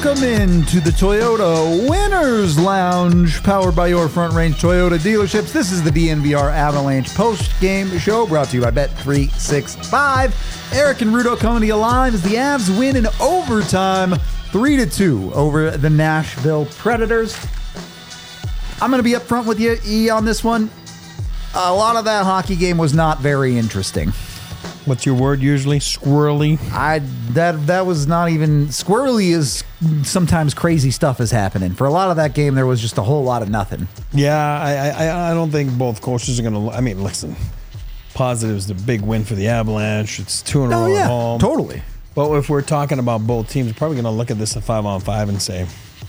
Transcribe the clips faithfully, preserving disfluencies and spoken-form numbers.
Welcome into the Toyota Winners Lounge, powered by your Front Range Toyota dealerships. This is the D N V R Avalanche post-game show, brought to you by Bet three sixty-five. Eric and Rudo coming to you live as the Avs win in overtime, three to two over the Nashville Predators. I'm going to be up front with you, E, on this one. A lot of that hockey game was not very interesting. What's your word usually? Squirrely? I that that was not even squirrely. Is sometimes crazy stuff is happening. For a lot of that game, there was just a whole lot of nothing. Yeah, I I, I don't think both coaches are going to. I mean, listen, positives, the big win for the Avalanche. It's two in a Oh row yeah, at home. totally. But if we're talking about both teams, we're probably going to look at this at five on five and say,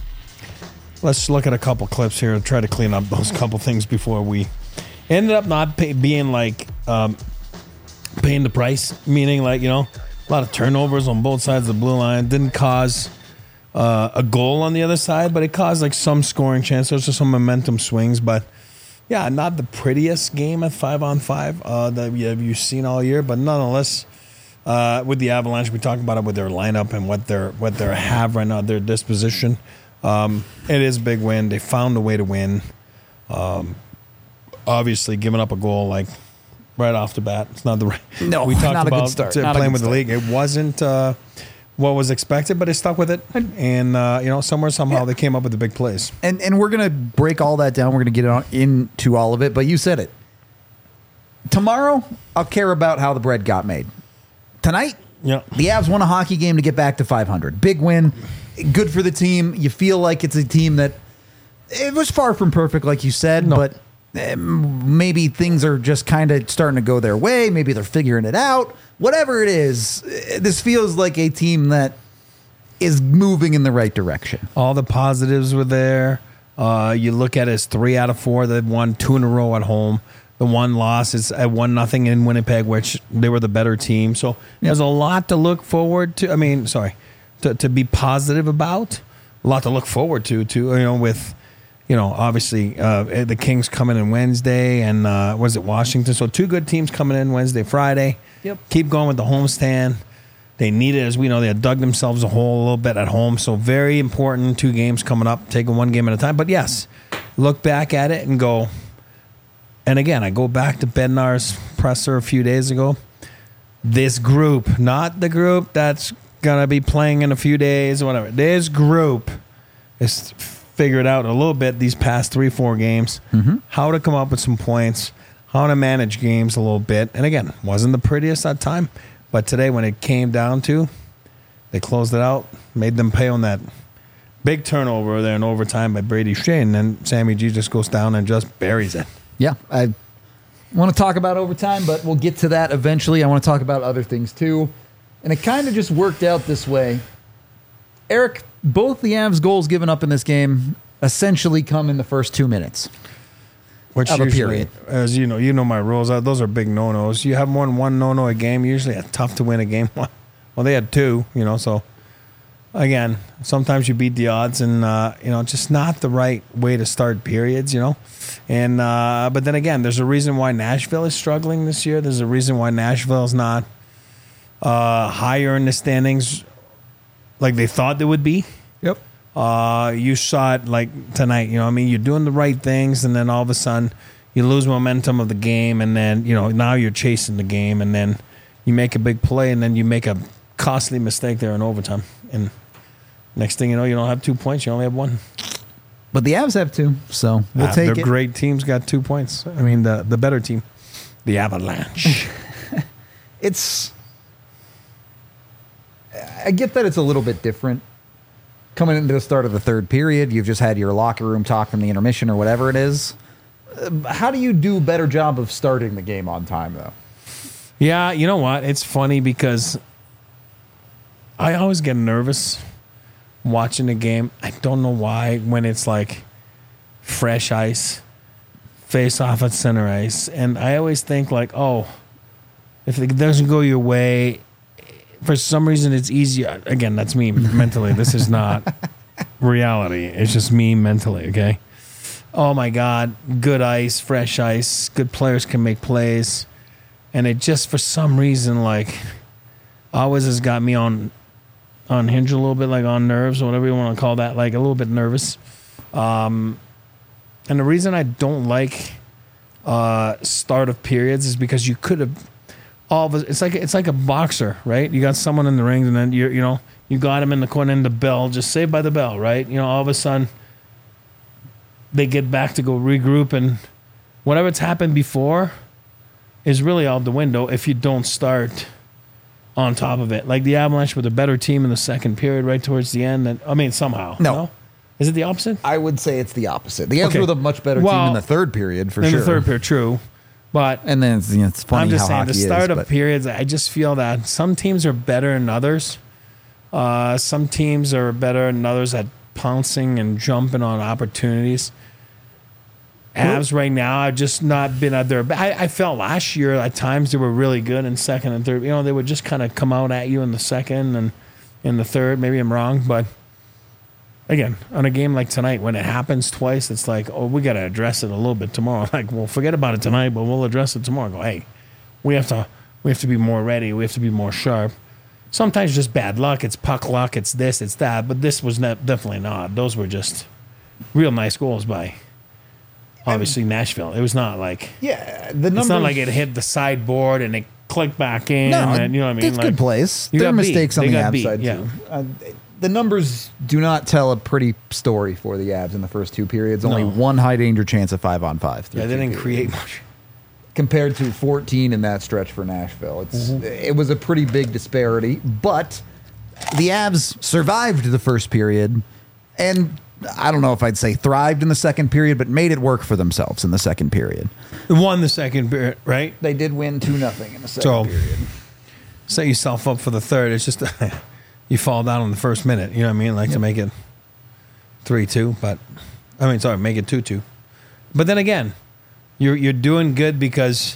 let's look at a couple clips here and try to clean up those couple things before we ended up not pay, being like. Um, Paying the price, meaning like, you know, a lot of turnovers on both sides of the blue line. Didn't cause uh, a goal on the other side, but it caused like some scoring chances, just some momentum swings. But yeah, not the prettiest game at five on five uh, that you have you seen all year. But nonetheless, uh, with the Avalanche, we talked about it with their lineup and what they're what they have right now, their disposition. Um, it is a big win. They found a way to win. Um, obviously, giving up a goal like. Right off the bat, it's not the right. No, we talked not a about good start. to Not a playing good with start. the league. It wasn't uh, what was expected, but they stuck with it, and uh, you know, somewhere somehow Yeah. they came up with the big plays. And and we're gonna break all that down. We're gonna get on into all of it. But you said it. Tomorrow, I'll care about how the bread got made. Tonight, Yeah, the Avs won a hockey game to get back to five hundred. Big win. Good for the team. You feel like it's a team that it was far from perfect, like you said, No. but eh, maybe things are just kind of starting to go their way. Maybe they're figuring it out. Whatever it is, eh, this feels like a team that is moving in the right direction. all the positives were there. Uh, you look at it as three out of four. They've won two in a row at home. The one loss is at one nothing in Winnipeg, which they were the better team. So there's a lot to look forward to. I mean, sorry, to to be positive about. A lot to look forward to. To you know with. You know, obviously, uh, the Kings coming in Wednesday, and uh, was it Washington? So two good teams coming in Wednesday, Friday. Yep. Keep going with the homestand. They need it, as we know. They had dug themselves a hole a little bit at home. So very important. Two games coming up, taking one game at a time. But yes, look back at it and go. And again, I go back to Bednar's presser a few days ago. This group, not the group that's gonna be playing in a few days or whatever. This group is. Figured out a little bit these past three, four games, mm-hmm. how to come up with some points, how to manage games a little bit. And again, wasn't the prettiest that time, but today when it came down to, they closed it out, made them pay on that big turnover there in overtime by Brady Shea, and then Sammy G just goes down and just buries it. Yeah, I want to talk about overtime, but we'll get to that eventually. I want to talk about other things too. And it kind of just worked out this way. Eric, both the Avs goals given up in this game essentially come in the first two minutes. Which Of a usually, period. as you know, you know my rules. uh, Those are big no-nos. You have more than one no-no a game, usually it's tough to win a game. Well, they had two, you know, so again, sometimes you beat the odds, and uh, you know, just not the right way to start periods, you know. And uh, but then again, there's a reason why Nashville is struggling this year. There's a reason why Nashville is not uh, higher in the standings like they thought they would be. Yep. Uh, you saw it like tonight, you know, I mean, you're doing the right things, and then all of a sudden you lose momentum of the game, and then, you know, now you're chasing the game, and then you make a big play, and then you make a costly mistake there in overtime. And next thing you know, you don't have two points, you only have one. But the Avs have two, so we'll Ah, take their it. great teams got two points. I mean, the, the better team, the Avalanche. It's... I get that it's a little bit different. Coming into the start of the third period, you've just had your locker room talk from the intermission or whatever it is. Uh, How do you do a better job of starting the game on time, though? Yeah, you know what? It's funny because I always get nervous watching the game. I don't know why when it's like fresh ice, face off at center ice. And I always think like, oh, if it doesn't go your way, for some reason it's easier. Again, that's me mentally. This is not reality. It's just me mentally, okay? Oh my God, good ice, fresh ice, good players can make plays. And it just, for some reason, like, always has got me on unhinged a little bit, like on nerves or whatever you want to call that, like a little bit nervous. Um, and the reason I don't like uh, start of periods is because you could have all of a, it's like it's like a boxer, right? You got someone in the ring, and then you you know you got him in the corner, and the bell just saved by the bell, right? You know, all of a sudden they get back to go regroup, and whatever's happened before is really out the window if you don't start on top of it. Like the Avalanche were the better team in the second period, right towards the end. And I mean, somehow, no. no? Is it the opposite? I would say it's the opposite. The Avs Okay. were the much better Well, team in the third period, for in sure. the third period, true. But And then it's, you know, it's funny I'm just how saying, hockey the start is, of but- periods, I just feel that some teams are better than others. Uh, some teams are better than others at pouncing and jumping on opportunities. Avs right now have just not been at their. I, I felt last year at times they were really good in second and third. You know, they would just kind of come out at you in the second and in the third. Maybe I'm wrong, but again, on a game like tonight, when it happens twice, it's like, oh, we got to address it a little bit tomorrow. Like, well, forget about it tonight, but we'll address it tomorrow. Go, hey, we have to, we have to be more ready. We have to be more sharp. Sometimes just bad luck. It's puck luck. It's this. It's that. But this was ne- definitely not. Those were just real nice goals by, obviously, Nashville. It was not like Yeah, the numbers. it's not like it hit the sideboard and it clicked back in. No, and, you know what I mean? it's Like, good plays. you There are got beat. mistakes on They the got Avs beat, side, yeah. too. Uh, the numbers do not tell a pretty story for the Avs in the first two periods. Only No. one high danger chance of five on five. through Yeah, they two didn't periods. create much. Compared to fourteen in that stretch for Nashville. It's Mm-hmm. It was a pretty big disparity, but the Avs survived the first period, and I don't know if I'd say thrived in the second period, but made it work for themselves in the second period. Won the second period, right? They did win two nothing in the second So- period. Set yourself up for the third. It's just you fall down in the first minute. You know what I mean? Like to make it three two, but I mean, sorry, make it two two. But then again, you're you're doing good because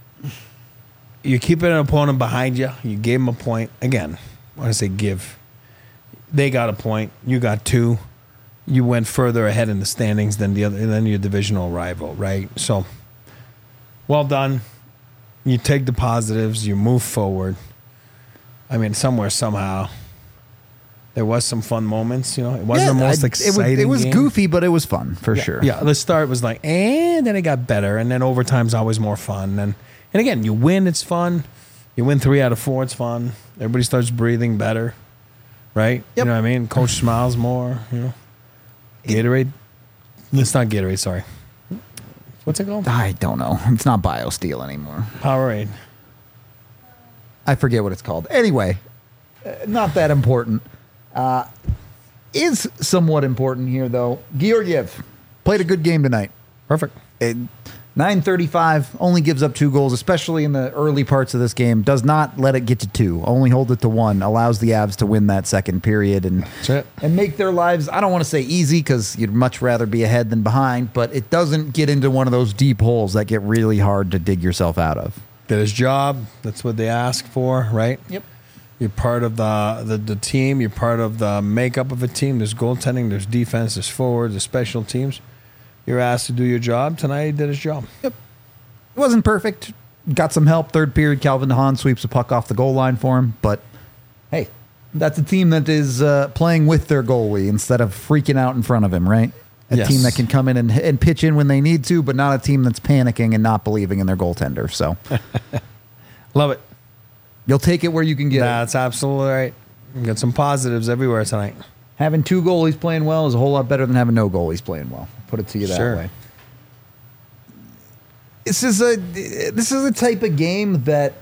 you're keeping an opponent behind you. You gave them a point. Again, when I say give, they got a point. You got two. You went further ahead in the standings than the other than your divisional rival, right? So, well done. You take the positives. You move forward. I mean, somewhere, somehow, there was some fun moments. You know, it wasn't the most I- exciting. It was, it was game. goofy, but it was fun for sure. Yeah, the start was like, and then it got better, and then overtime's always more fun. And and again, you win, it's fun. You win three out of four, it's fun. Everybody starts breathing better, right? Yep. You know what I mean? Coach smiles more. You know, Gatorade. It's not Gatorade. Sorry. What's it called? I don't know. It's not BioSteel anymore. Powerade. I forget what it's called. Anyway, uh, not that important. Uh, is somewhat important here, though. Georgiev played a good game tonight. Perfect. It, nine thirty-five, only gives up two goals, especially in the early parts of this game. Does not let it get to two. Only hold it to one. Allows the Avs to win that second period and That's it. and make their lives, I don't want to say easy because you'd much rather be ahead than behind, but it doesn't get into one of those deep holes that get really hard to dig yourself out of. Did his job. That's what they asked for, right? Yep. You're part of the, the the team. You're part of the makeup of a team. There's goaltending. There's defense. There's forwards. There's special teams. You're asked to do your job. Tonight he did his job. It wasn't perfect. Got some help. Third period, Calvin DeHaan sweeps a puck off the goal line for him. But hey, that's a team that is uh, playing with their goalie instead of freaking out in front of him, right? A Yes. team that can come in and, and pitch in when they need to, but not a team that's panicking and not believing in their goaltender. So Love it. you'll take it where you can get it. That's absolutely right. We got some positives everywhere tonight. Having two goalies playing well is a whole lot better than having no goalies playing well. Put it to you that Sure. way. This is a this is a type of game that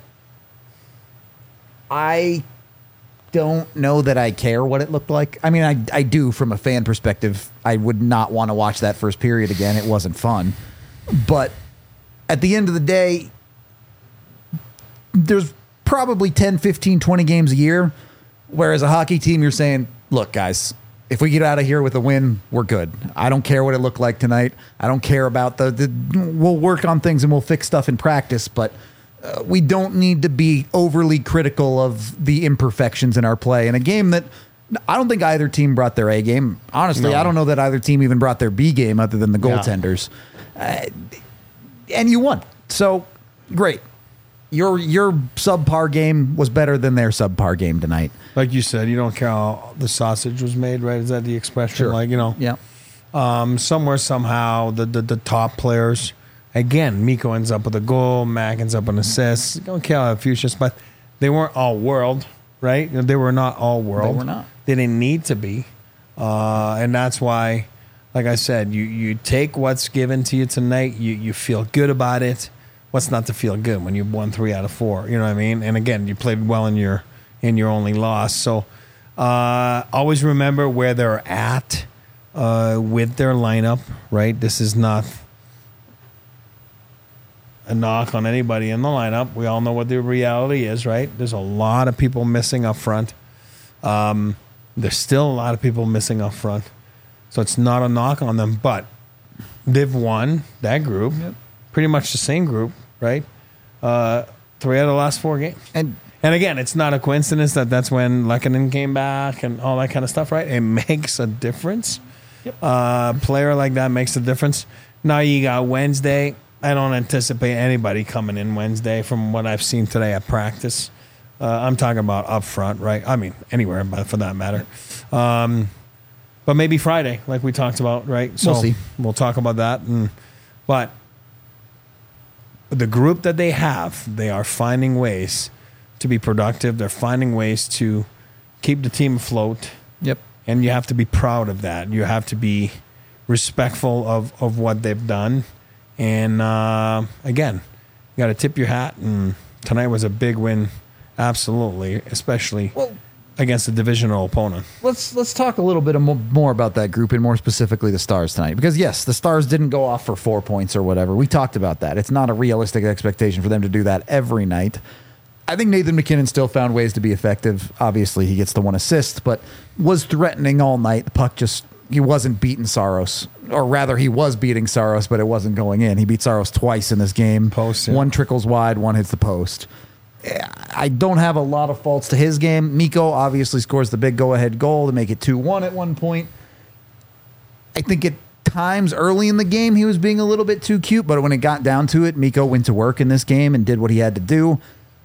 I don't know that I care what it looked like. I mean, I I do from a fan perspective. I would not want to watch that first period again. It wasn't fun. But at the end of the day, there's probably ten, fifteen, twenty games a year where as a hockey team you're saying, look, guys, if we get out of here with a win, we're good. I don't care what it looked like tonight. I don't care about the, the we'll work on things and we'll fix stuff in practice, but uh, we don't need to be overly critical of the imperfections in our play. In a game that I don't think either team brought their A game. Honestly, No. I don't know that either team even brought their B game other than the goaltenders. Uh, and you won. So, great. your your subpar game was better than their subpar game tonight. Like you said, you don't care how the sausage was made, right? Is that the expression? Sure. Like, you know, Yeah. um, somewhere, somehow, the, the, the top players, again, Miko ends up with a goal, Mac ends up with an assist. You don't care how Fuchsia's, but they weren't all world, right? They were not all world. They were not. They didn't need to be. Uh, and that's why, like I said, you, you take what's given to you tonight, you, you feel good about it. What's not to feel good when you won three out of four? You know what I mean? And again, you played well in your in your only loss. So uh, always remember where they're at uh, with their lineup, right? This is not a knock on anybody in the lineup. We all know what the reality is, right? There's a lot of people missing up front. Um, there's still a lot of people missing up front. So it's not a knock on them, but they've won that group. Yep. Pretty much the same group, right? Uh, three out of the last four games. And And again, it's not a coincidence that that's when Lehkonen came back and all that kind of stuff, right? It makes a difference. Yep. Uh, player like that makes a difference. Now you got Wednesday. I don't anticipate anybody coming in Wednesday from what I've seen today at practice. Uh, I'm talking about up front, right? I mean, anywhere, but for that matter. Um, but maybe Friday, like we talked about, right? So We'll see. We'll talk about that. And, but the group that they have, they are finding ways to be productive. They're finding ways to keep the team afloat. Yep. And you have to be proud of that. You have to be respectful of, of what they've done. And uh, again, you got to tip your hat. And tonight was a big win, absolutely, especially Well, against a divisional opponent. let's let's talk a little bit mo- more about that group and more specifically the Stars tonight. Because yes, the Stars didn't go off for four points or whatever. We talked about that. It's not a realistic expectation for them to do that every night. I think Nathan MacKinnon still found ways to be effective. Obviously, he gets the one assist, but was threatening all night. The puck just, he wasn't beating Saros. Or rather, he was beating Saros, but it wasn't going in. He beat Saros twice in this game. Post, yeah. One trickles wide, one hits the post. I don't have a lot of faults to his game. Miko obviously scores the big go-ahead goal to make it two one at one point. I think at times early in the game he was being a little bit too cute, but when it got down to it, Miko went to work in this game and did what he had to do.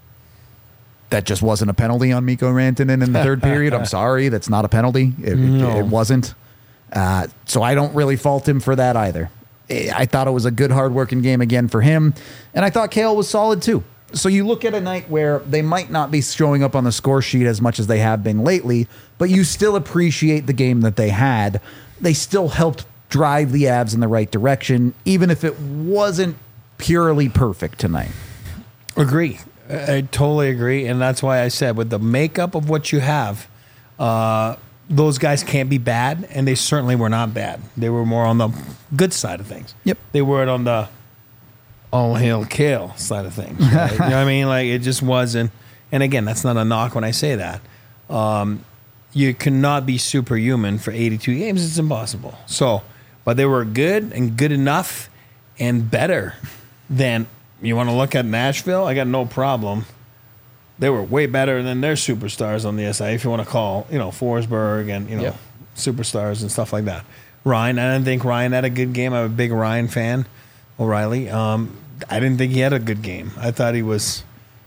That just wasn't a penalty on Miko Rantanen in the third period. I'm sorry, that's not a penalty. It, No. it, it wasn't. Uh, so I don't really fault him for that either. I thought it was a good, hard-working game again for him, and I thought Kale was solid too. So you look at a night where they might not be showing up on the score sheet as much as they have been lately, but you still appreciate the game that they had. They still helped drive the Avs in the right direction, even if it wasn't purely perfect tonight. Agree. I I totally agree. And that's why I said with the makeup of what you have, uh, those guys can't be bad, and they certainly were not bad. They were more on the good side of things. Yep. They weren't on the all hail Kale side of things. Right? You know what I mean? Like, it just wasn't. And again, that's not a knock when I say that. Um, you cannot be superhuman for eighty-two games. It's impossible. So, but they were good and good enough and better than, you want to look at Nashville? I got no problem. They were way better than their superstars on the S I, if you want to call, you know, Forsberg and, you know, Yep. superstars and stuff like that. Ryan, I didn't think Ryan had a good game. I'm a big Ryan fan, O'Reilly. Um, I didn't think he had a good game. I thought he was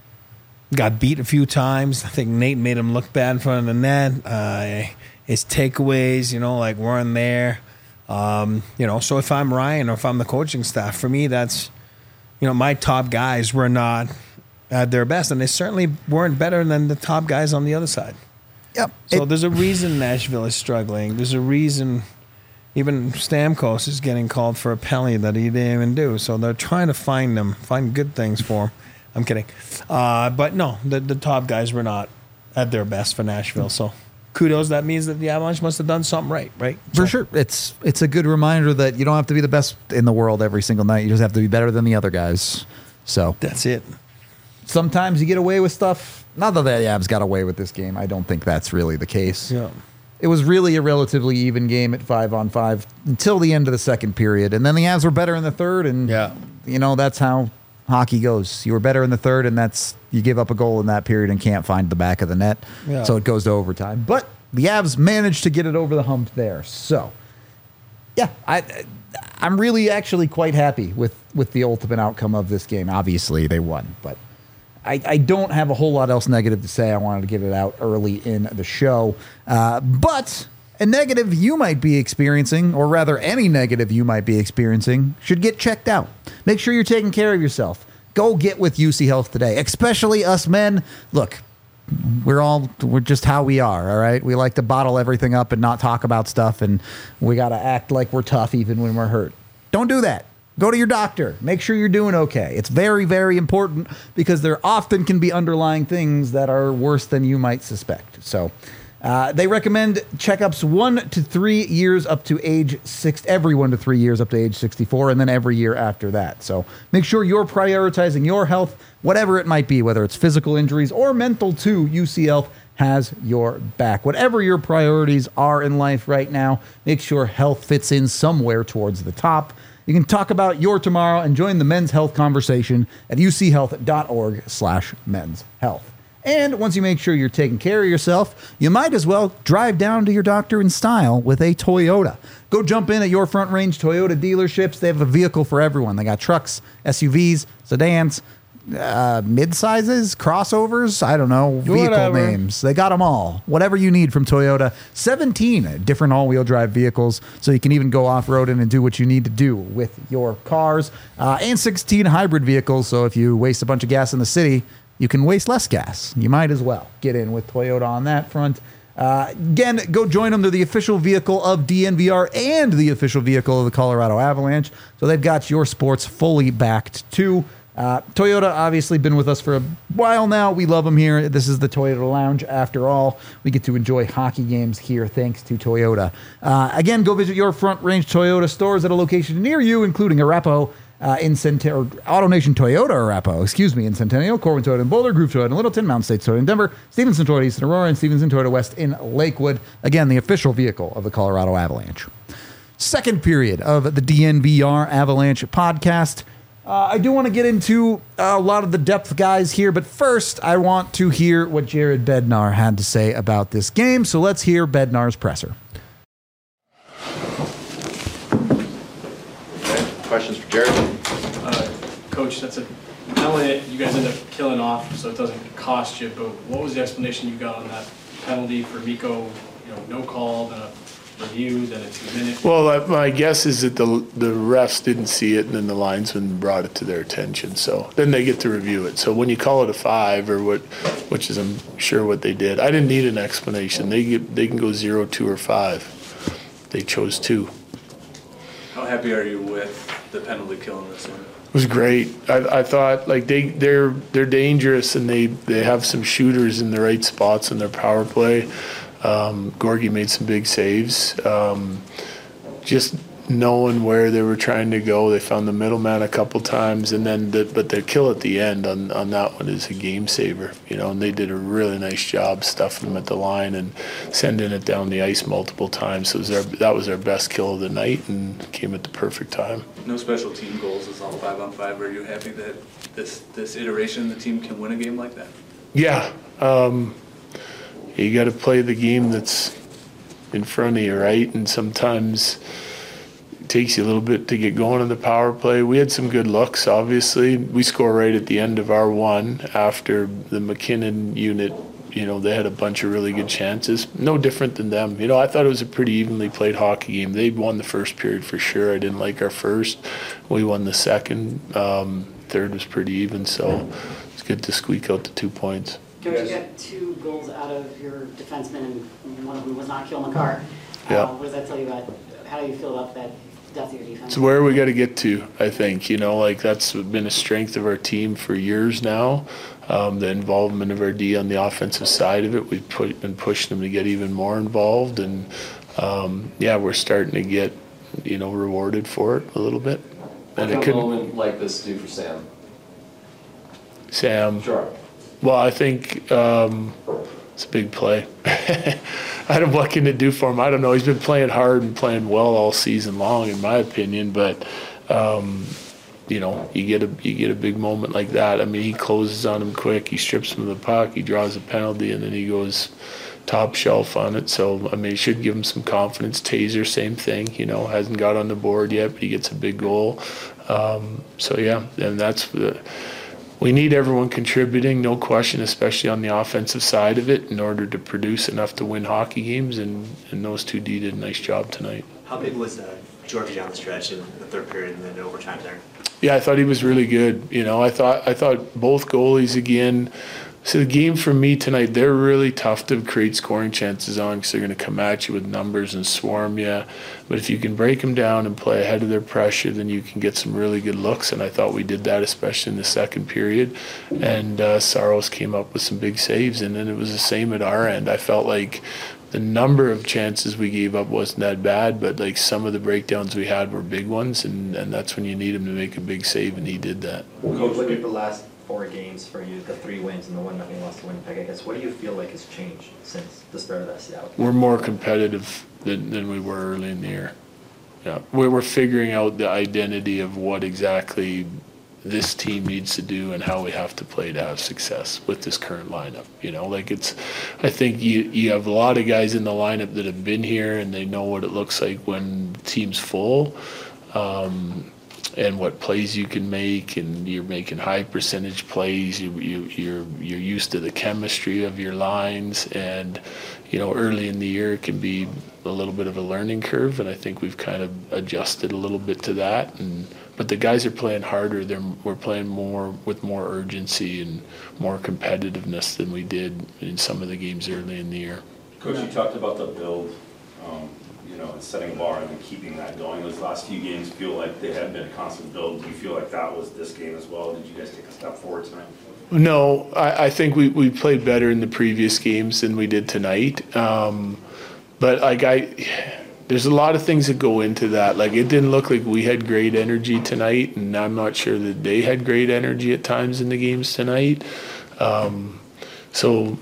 got beat a few times. I think Nate made him look bad in front of the net. Uh, his takeaways, you know, like weren't there. Um, you know, so if I'm Ryan or if I'm the coaching staff, for me, that's, you know, my top guys were not at their best, and they certainly weren't better than the top guys on the other side. Yep. So It- there's a reason Nashville is struggling. There's a reason even Stamkos is getting called for a penalty that he didn't even do. So they're trying to find them, find good things for him. I'm kidding. Uh, but no, the, the top guys were not at their best for Nashville. So kudos. That means that the Avalanche must have done something right, right? For So- sure. It's it's a good reminder that you don't have to be the best in the world every single night. You just have to be better than the other guys. So That's it. sometimes you get away with stuff. Not that the Avs got away with this game. I don't think that's really the case. Yeah. It was really a relatively even game at five on five until the end of the second period. And then the Avs were better in the third. And, Yeah. you know, that's how hockey goes. You were better in the third, and that's you give up a goal in that period and can't find the back of the net. Yeah. So it goes to overtime. But the Avs managed to get it over the hump there. So, yeah, I, I'm really actually quite happy with, with the ultimate outcome of this game. Obviously, they won. But I, I don't have a whole lot else negative to say. I wanted to get it out early in the show. Uh, but a negative you might be experiencing, or rather any negative you might be experiencing, should get checked out. Make sure you're taking care of yourself. Go get with U C Health today, especially us men. Look, we're all, we're just how we are, all right? We like to bottle everything up and not talk about stuff, and we got to act like we're tough even when we're hurt. Don't do that. Go to your doctor. Make sure you're doing okay. It's very, very important because there often can be underlying things that are worse than you might suspect. So uh, they recommend checkups one to three years up to age six, every one to three years up to age sixty-four, and then every year after that. So make sure you're prioritizing your health, whatever it might be, whether it's physical injuries or mental too. U C Health has your back. Whatever your priorities are in life right now, make sure health fits in somewhere towards the top. You can talk about your tomorrow and join the men's health conversation at uchealth.org slash men's health. And once you make sure you're taking care of yourself, you might as well drive down to your doctor in style with a Toyota. Go jump in at your Front Range Toyota dealerships. They have a vehicle for everyone. They got trucks, S U Vs, sedans, uh, mid-sizes, crossovers, I don't know, vehicle Whatever. names. They got them all. Whatever you need from Toyota. seventeen different all-wheel drive vehicles, so you can even go off-roading and do what you need to do with your cars. Uh, and sixteen hybrid vehicles, so if you waste a bunch of gas in the city, you can waste less gas. You might as well get in with Toyota on that front. Uh, again, go join them. They're the official vehicle of D N V R and the official vehicle of the Colorado Avalanche. So they've got your sports fully backed too. Uh, Toyota obviously been with us for a while now. We love them here. This is the Toyota Lounge. After all, we get to enjoy hockey games here thanks to Toyota. Uh, again, go visit your Front Range Toyota stores at a location near you, including Arapahoe, Uh, in Centennial, AutoNation Toyota, Arapahoe, excuse me, in Centennial, Corwin Toyota in Boulder, Groove Toyota in Littleton, Mountain State Toyota in Denver, Stevenson Toyota East in Aurora, and Stevenson Toyota West in Lakewood. Again, the official vehicle of the Colorado Avalanche. Second period of the D N V R Avalanche podcast. Uh, I do want to get into a lot of the depth guys here, but first I want to hear what Jared Bednar had to say about this game. So let's hear Bednar's presser. Questions for Jared? Uh, Coach, that's a penalty you guys end up killing off, so it doesn't cost you. But what was the explanation you got on that penalty for Mikko? You know, no call, then a review, then a two-minute. Well, uh, my guess is that the the refs didn't see it, and then the linesman brought it to their attention. So then they get to review it. So when you call it a five, or what, which is I'm sure what they did, I didn't need an explanation. They get, they can go zero, two, or five. They chose two. How happy are you with the penalty kill in this one? It was great. I, I thought like they they're they're dangerous, and they, they have some shooters in the right spots in their power play. Um, Gorgie made some big saves. Um, just knowing where they were trying to go, they found the middleman a couple times, and then the, but their kill at the end on, on that one is a game saver. You know, and they did a really nice job stuffing them at the line and sending it down the ice multiple times. So it was our, that was our best kill of the night, and came at the perfect time. No special team goals. It's all five on five. Are you happy that this this iteration the team can win a game like that? Yeah. Um, you got to play the game that's in front of you, right? And sometimes it takes you a little bit to get going on the power play. We had some good looks, obviously. We score right at the end of our one after the McKinnon unit. You know, they had a bunch of really good chances. No different than them. You know, I thought it was a pretty evenly played hockey game. They won the first period for sure. I didn't like our first. We won the second. Um, third was pretty even, so it's good to squeak out the two points. Coach, you got two goals out of your defenseman, and one of them was not Kyle McCarr. Yeah. Uh, what does that tell you about, how do you feel about that depth of your defense? It's where we got to get to, I think. You know, like that's been a strength of our team for years now. Um, the involvement of our D on the offensive side of it, we've put, been pushing them to get even more involved. And, um, yeah, we're starting to get, you know, rewarded for it a little bit. What And can a moment like this do for Sam? Sam. Sure. Well, I think um, it's a big play. I don't know what can it do for him. I don't know. He's been playing hard and playing well all season long, in my opinion. But um, you know, you get a you get a big moment like that. I mean, he closes on him quick. He strips him of the puck. He draws a penalty, and then he goes top shelf on it. So I mean, it should give him some confidence. Taser, same thing. You know, hasn't got on the board yet, but he gets a big goal. Um, so yeah, and that's the. we need everyone contributing, no question, especially on the offensive side of it, in order to produce enough to win hockey games, and, and those two D did a nice job tonight. How big was uh, Georgie down the stretch in the third period and then overtime there? Yeah, I thought he was really good. You know, I thought I thought both goalies again. So the game for me tonight, they're really tough to create scoring chances on because they're going to come at you with numbers and swarm you. But if you can break them down and play ahead of their pressure, then you can get some really good looks. And I thought we did that, especially in the second period. And uh, Saros came up with some big saves. And then it was the same at our end. I felt like the number of chances we gave up wasn't that bad, but like some of the breakdowns we had were big ones, and, and that's when you need him to make a big save, and he did that. When you look at the last four games for you, the three wins and the one nothing loss to Winnipeg, I guess, what do you feel like has changed since the start of that Seattle game? We're more competitive than, than we were early in the year. Yeah, we're, we're figuring out the identity of what exactly this team needs to do and how we have to play to have success with this current lineup. You know, like it's, I think you, you have a lot of guys in the lineup that have been here and they know what it looks like when the team's full, um, and what plays you can make, and you're making high percentage plays. You, you, you're, you're used to the chemistry of your lines, and, you know, early in the year it can be a little bit of a learning curve, and I think we've kind of adjusted a little bit to that. And but the guys are playing harder. They're, we're playing more with more urgency and more competitiveness than we did in some of the games early in the year. Coach, you talked about the build, um, you know, and setting a bar and then keeping that going. Those last few games feel like they have been a constant build. Do you feel like that was this game as well? Did you guys take a step forward tonight? No, I, I think we, we played better in the previous games than we did tonight. Um, but like I, there's a lot of things that go into that. Like it didn't look like we had great energy tonight, and I'm not sure that they had great energy at times in the games tonight. Um, so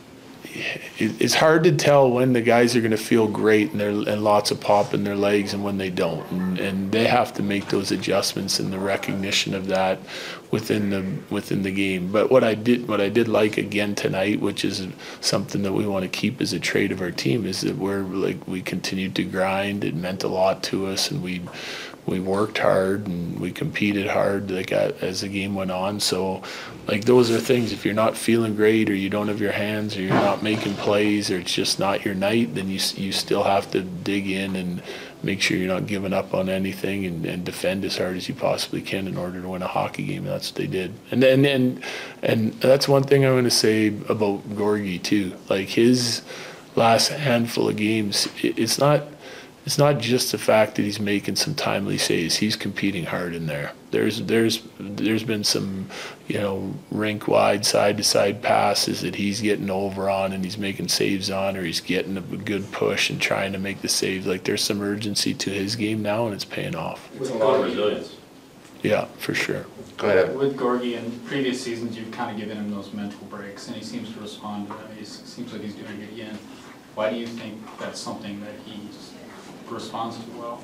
it, it's hard to tell when the guys are going to feel great and, they're, and lots of pop in their legs and when they don't. And, and they have to make those adjustments and the recognition of that within the within the game. But what I did what I did like again tonight, which is something that we want to keep as a trait of our team, is that we're like we continued to grind. It meant a lot to us, and we we worked hard and we competed hard like as the game went on. So like those are things, if you're not feeling great or you don't have your hands or you're not making plays or it's just not your night, then you you still have to dig in and make sure you're not giving up on anything, and, and defend as hard as you possibly can in order to win a hockey game. And that's what they did. And and and, and that's one thing I'm going to say about Gorgie too. Like his last handful of games, it, it's not it's not just the fact that he's making some timely saves. He's competing hard in there. There's there's there's been some, you know, rink wide side to side passes that he's getting over on and he's making saves on, or he's getting a good push and trying to make the saves. Like there's some urgency to his game now, and it's paying off. It's a lot of resilience. Yeah, for sure. Go ahead. With Gorgie, in previous seasons, you've kind of given him those mental breaks, and he seems to respond to them. He seems like he's doing it again. Why do you think that's something that he responds to well?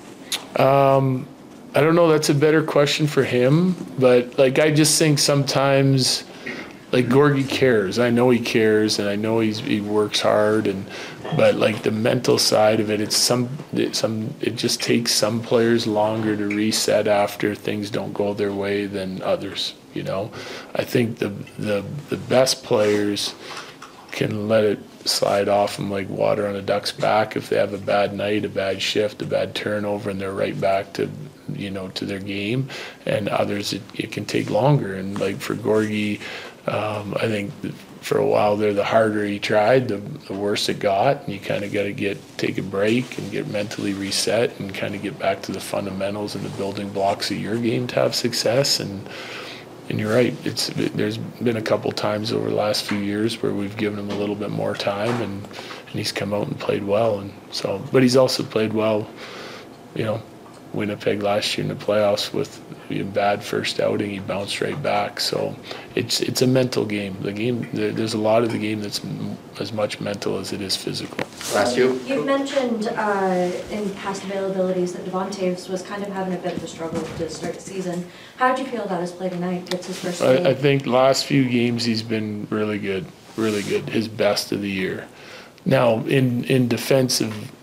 Um, I don't know. That's a better question for him. But like, I just think sometimes, like Gorgie cares. I know he cares, and I know he's he works hard. And but like the mental side of it, it's some it, some it just takes some players longer to reset after things don't go their way than others. You know, I think the the the best players can let it slide off them like water on a duck's back if they have a bad night, a bad shift, a bad turnover, and they're right back to, you know, to their game. And others, it, it can take longer. And like for Gorgie, um, I think for a while there, the harder he tried, the, the worse it got. And you kind of got to get take a break and get mentally reset and kind of get back to the fundamentals and the building blocks of your game to have success. And And you're right. It's there's been a couple times over the last few years where we've given him a little bit more time, and, and he's come out and played well. And so, but he's also played well, you know, Winnipeg last year in the playoffs with a bad first outing, he bounced right back. So it's it's a mental game. The game there, there's a lot of the game that's m- as much mental as it is physical. Last you. You've mentioned uh, in past availabilities that Devontae was kind of having a bit of a struggle to start the season. How did you feel about his play tonight? It's his first game. I, I think last few games he's been really good, really good. His best of the year. Now in in defensive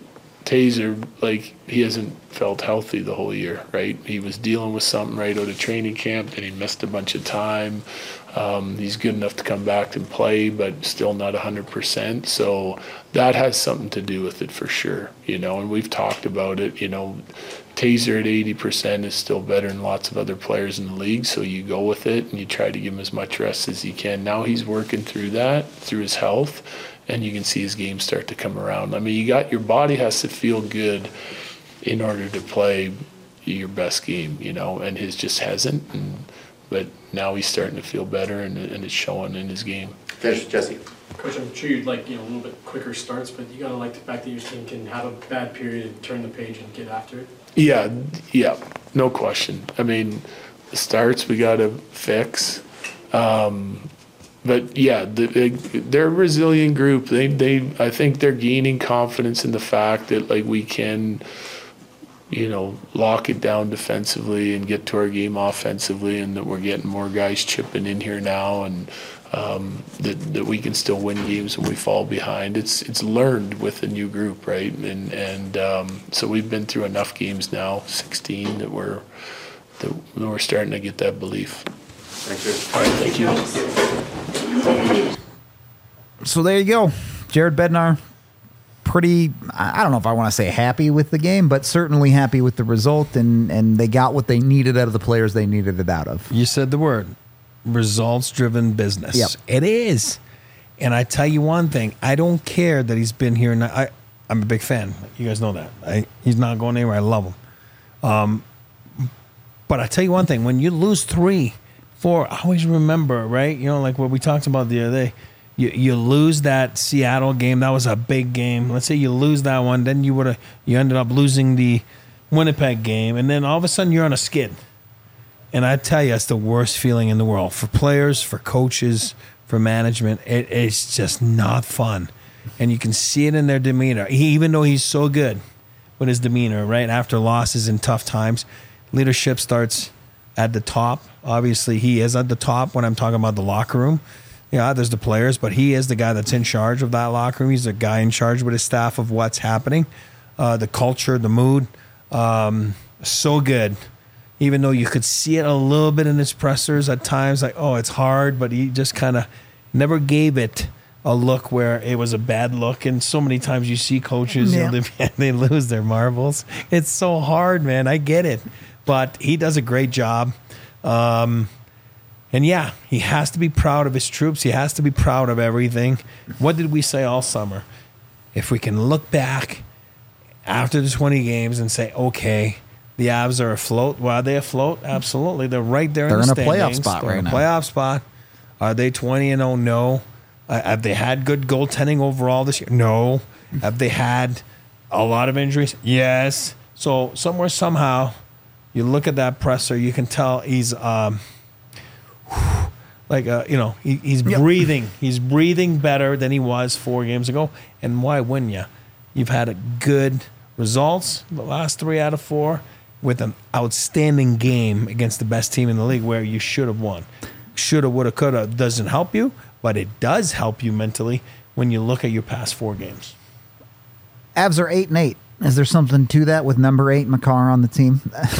Taser, like, he hasn't felt healthy the whole year, right? He was dealing with something right out of training camp, and he missed a bunch of time. Um, he's good enough to come back and play, but still not one hundred percent. So that has something to do with it for sure, you know, and we've talked about it, you know. Taser at eighty percent is still better than lots of other players in the league, so you go with it and you try to give him as much rest as you can. Now he's working through that, through his health, and you can see his game start to come around. I mean, you got your body has to feel good in order to play your best game, you know, and his just hasn't. And, but now he's starting to feel better, and, and it's showing in his game. Finish, Jesse. Coach, I'm sure you'd like, you know, a little bit quicker starts, but you gotta like the fact that your team can have a bad period, turn the page, and get after it. Yeah, yeah, no question. I mean, the starts we got to fix. Um, but yeah, the, they, they're a resilient group. They, they, I think they're gaining confidence in the fact that, like, we can, you know, lock it down defensively and get to our game offensively, and that we're getting more guys chipping in here now, and um, that, that we can still win games when we fall behind. It's it's learned with a new group, right? And and um, so we've been through enough games now, sixteen, that we're that we're starting to get that belief. Thank you. All right, thank you. So there you go. Jared Bednar, pretty, I don't know if I want to say happy with the game, but certainly happy with the result, and, and they got what they needed out of the players they needed it out of. You said the word. Results-driven business. Yep. It is. And I tell you one thing. I don't care that he's been here. And I, I'm a big fan. You guys know that. I, he's not going anywhere. I love him. Um, but I tell you one thing. When you lose three, four, I always remember, right? You know, like what we talked about the other day. You, you lose that Seattle game. That was a big game. Let's say you lose that one. Then you would have you ended up losing the Winnipeg game. And then all of a sudden you're on a skid. And I tell you, it's the worst feeling in the world. For players, for coaches, for management, it, it's just not fun. And you can see it in their demeanor. He, even though he's so good with his demeanor, right, after losses and tough times, leadership starts at the top. Obviously, he is at the top when I'm talking about the locker room. Yeah, there's the players, but he is the guy that's in charge of that locker room. He's the guy in charge with his staff of what's happening, uh, the culture, the mood. Um, so good. Even though you could see it a little bit in his pressers at times, like, oh, it's hard, but he just kind of never gave it a look where it was a bad look. And so many times you see coaches, Yeah. you know, they, they lose their marbles. It's so hard, man. I get it. But he does a great job. Um, and yeah, he has to be proud of his troops. He has to be proud of everything. What did we say all summer? If we can look back after the twenty games and say, okay, the Avs are afloat. Well, are they afloat? Absolutely. They're right there They're in the in a playoff standings. spot They're right in a now. playoff spot. Are they twenty and oh? No. Uh, have they had good goaltending overall this year? No. Have they had a lot of injuries? Yes. So somewhere, somehow, you look at that presser, you can tell he's um, like, uh, you know, he, he's Yep. breathing. He's breathing better than he was four games ago. And why wouldn't you? You've had a good results the last three out of four with an outstanding game against the best team in the league where you should have won. Shoulda, woulda, coulda doesn't help you, but it does help you mentally when you look at your past four games. Avs are eight and eight. Is there something to that with number eight Makar on the team?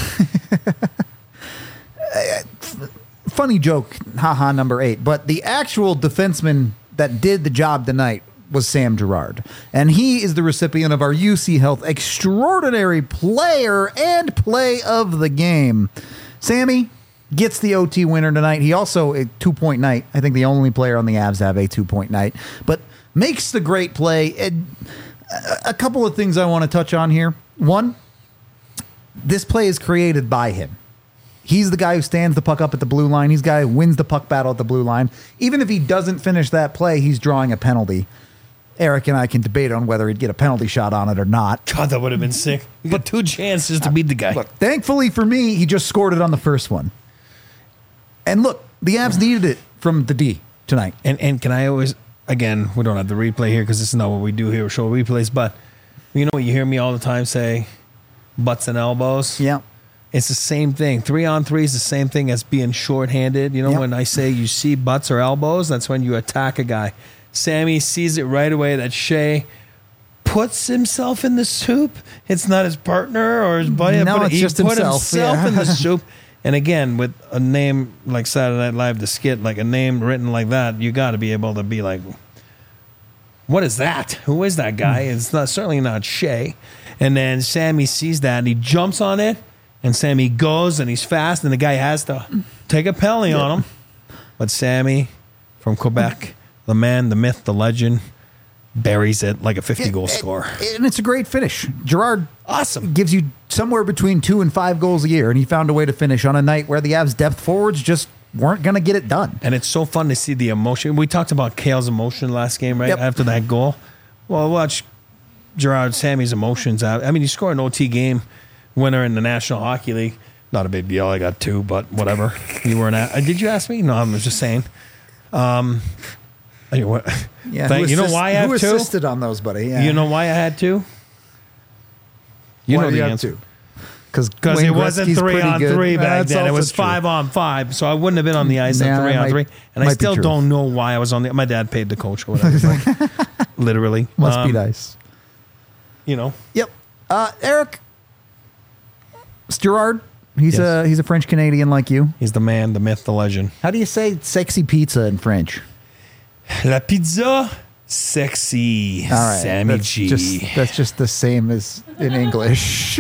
Funny joke, haha, number eight. But the actual defenseman that did the job tonight was Sam Girard. And he is the recipient of our U C Health Extraordinary Player and Play of the Game. Sammy gets the O T winner tonight. He also, a two-point night. I think the only player on the Avs have a two-point night. But makes the great play. And a couple of things I want to touch on here. One, this play is created by him. He's the guy who stands the puck up at the blue line. He's the guy who wins the puck battle at the blue line. Even if he doesn't finish that play, he's drawing a penalty. Eric and I can debate on whether he'd get a penalty shot on it or not. God, that would have been sick. You got two chances to beat the guy. Look, thankfully for me, he just scored it on the first one. And look, the Avs needed it from the D tonight. And and can I always, again, we don't have the replay here because this is not what we do here, show replays, but you know what you hear me all the time say, butts and elbows? Yeah. It's the same thing. Three on three is the same thing as being shorthanded. You know, Yep. when I say you see butts or elbows, that's when you attack a guy. Sammy sees it right away that Shea puts himself in the soup. It's not his partner or his buddy. No, but it's he just put himself, himself yeah. in the soup. And again, with a name like Saturday Night Live, the skit, like a name written like that, you got to be able to be like, what is that? Who is that guy? It's not certainly not Shay. And then Sammy sees that and he jumps on it. And Sammy goes and he's fast, and the guy has to take a penalty yeah. on him. But Sammy from Quebec, the man, the myth, the legend, buries it like a fifty-goal score. And it's a great finish. Gerard awesome. gives you somewhere between two and five goals a year, and he found a way to finish on a night where the Avs depth forwards just weren't going to get it done. And it's so fun to see the emotion. We talked about Kale's emotion last game, right? Yep. After that goal. Well, watch Gerard Sammy's emotions out. I mean, he scored an O T game winner in the National Hockey League. Not a big deal. I got two, but whatever. You weren't at. Uh, did you ask me? No, I was just saying. Um, anyway, yeah, thank, you know assist, why I have who two? Who assisted on those, buddy? Yeah. You know why I had two? You why know do the you have answer. Two? Because it wasn't three on good. three back That's then. It also was true. five on five, so I wouldn't have been on the ice Nah, at three that on might- three. And I might be still true. don't know why I was on the. My dad paid the coach or whatever. like, literally, Must Um, be nice. You know. Yep. Uh, Eric, it's Gerard. He's Yes. a he's a French Canadian like you. He's the man, the myth, the legend. How do you say sexy pizza in French? La pizza sexy. All right, Sammy that's G. Just, that's just the same as in English.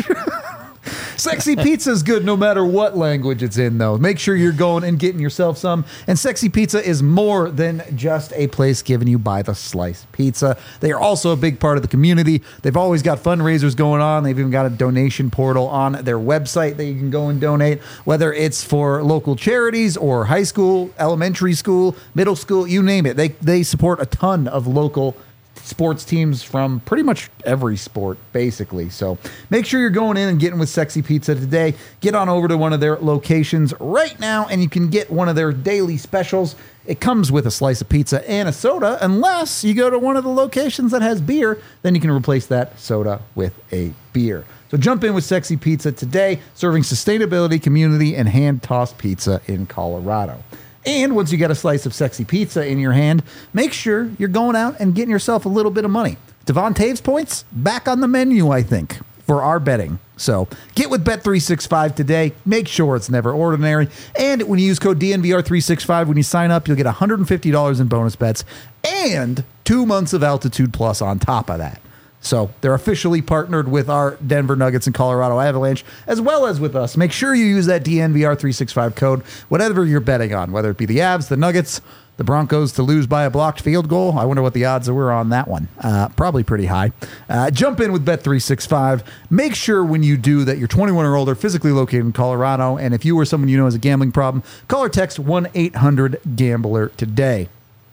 Sexy pizza is good no matter what language it's in, though. Make sure you're going and getting yourself some. And Sexy Pizza is more than just a place given you by the slice pizza. They are also a big part of the community. They've always got fundraisers going on. They've even got a donation portal on their website that you can go and donate, whether it's for local charities or high school, elementary school, middle school, you name it. They, they support a ton of local sports teams from pretty much every sport, basically. So make sure you're going in and getting with Sexy Pizza today. Get on over to one of their locations right now, and you can get one of their daily specials. It comes with a slice of pizza and a soda, unless you go to one of the locations that has beer. Then you can replace that soda with a beer. So jump in with Sexy Pizza today, serving sustainability, community, and hand-tossed pizza in Colorado. And once you get a slice of Sexy Pizza in your hand, make sure you're going out and getting yourself a little bit of money. Devon Taves points back on the menu, I think, for our betting. So get with Bet three sixty-five today. Make sure it's never ordinary. And when you use code D N V R three sixty-five when you sign up, you'll get one hundred fifty dollars in bonus bets and two months of Altitude Plus on top of that. So they're officially partnered with our Denver Nuggets and Colorado Avalanche, as well as with us. Make sure you use that D N V R three sixty-five code, whatever you're betting on, whether it be the Avs, the Nuggets, the Broncos to lose by a blocked field goal. I wonder what the odds were on that one. Uh, probably pretty high. Uh, jump in with Bet three sixty-five. Make sure when you do that you're twenty-one or older, physically located in Colorado. And if you or someone you know has a gambling problem, call or text one eight hundred gambler today.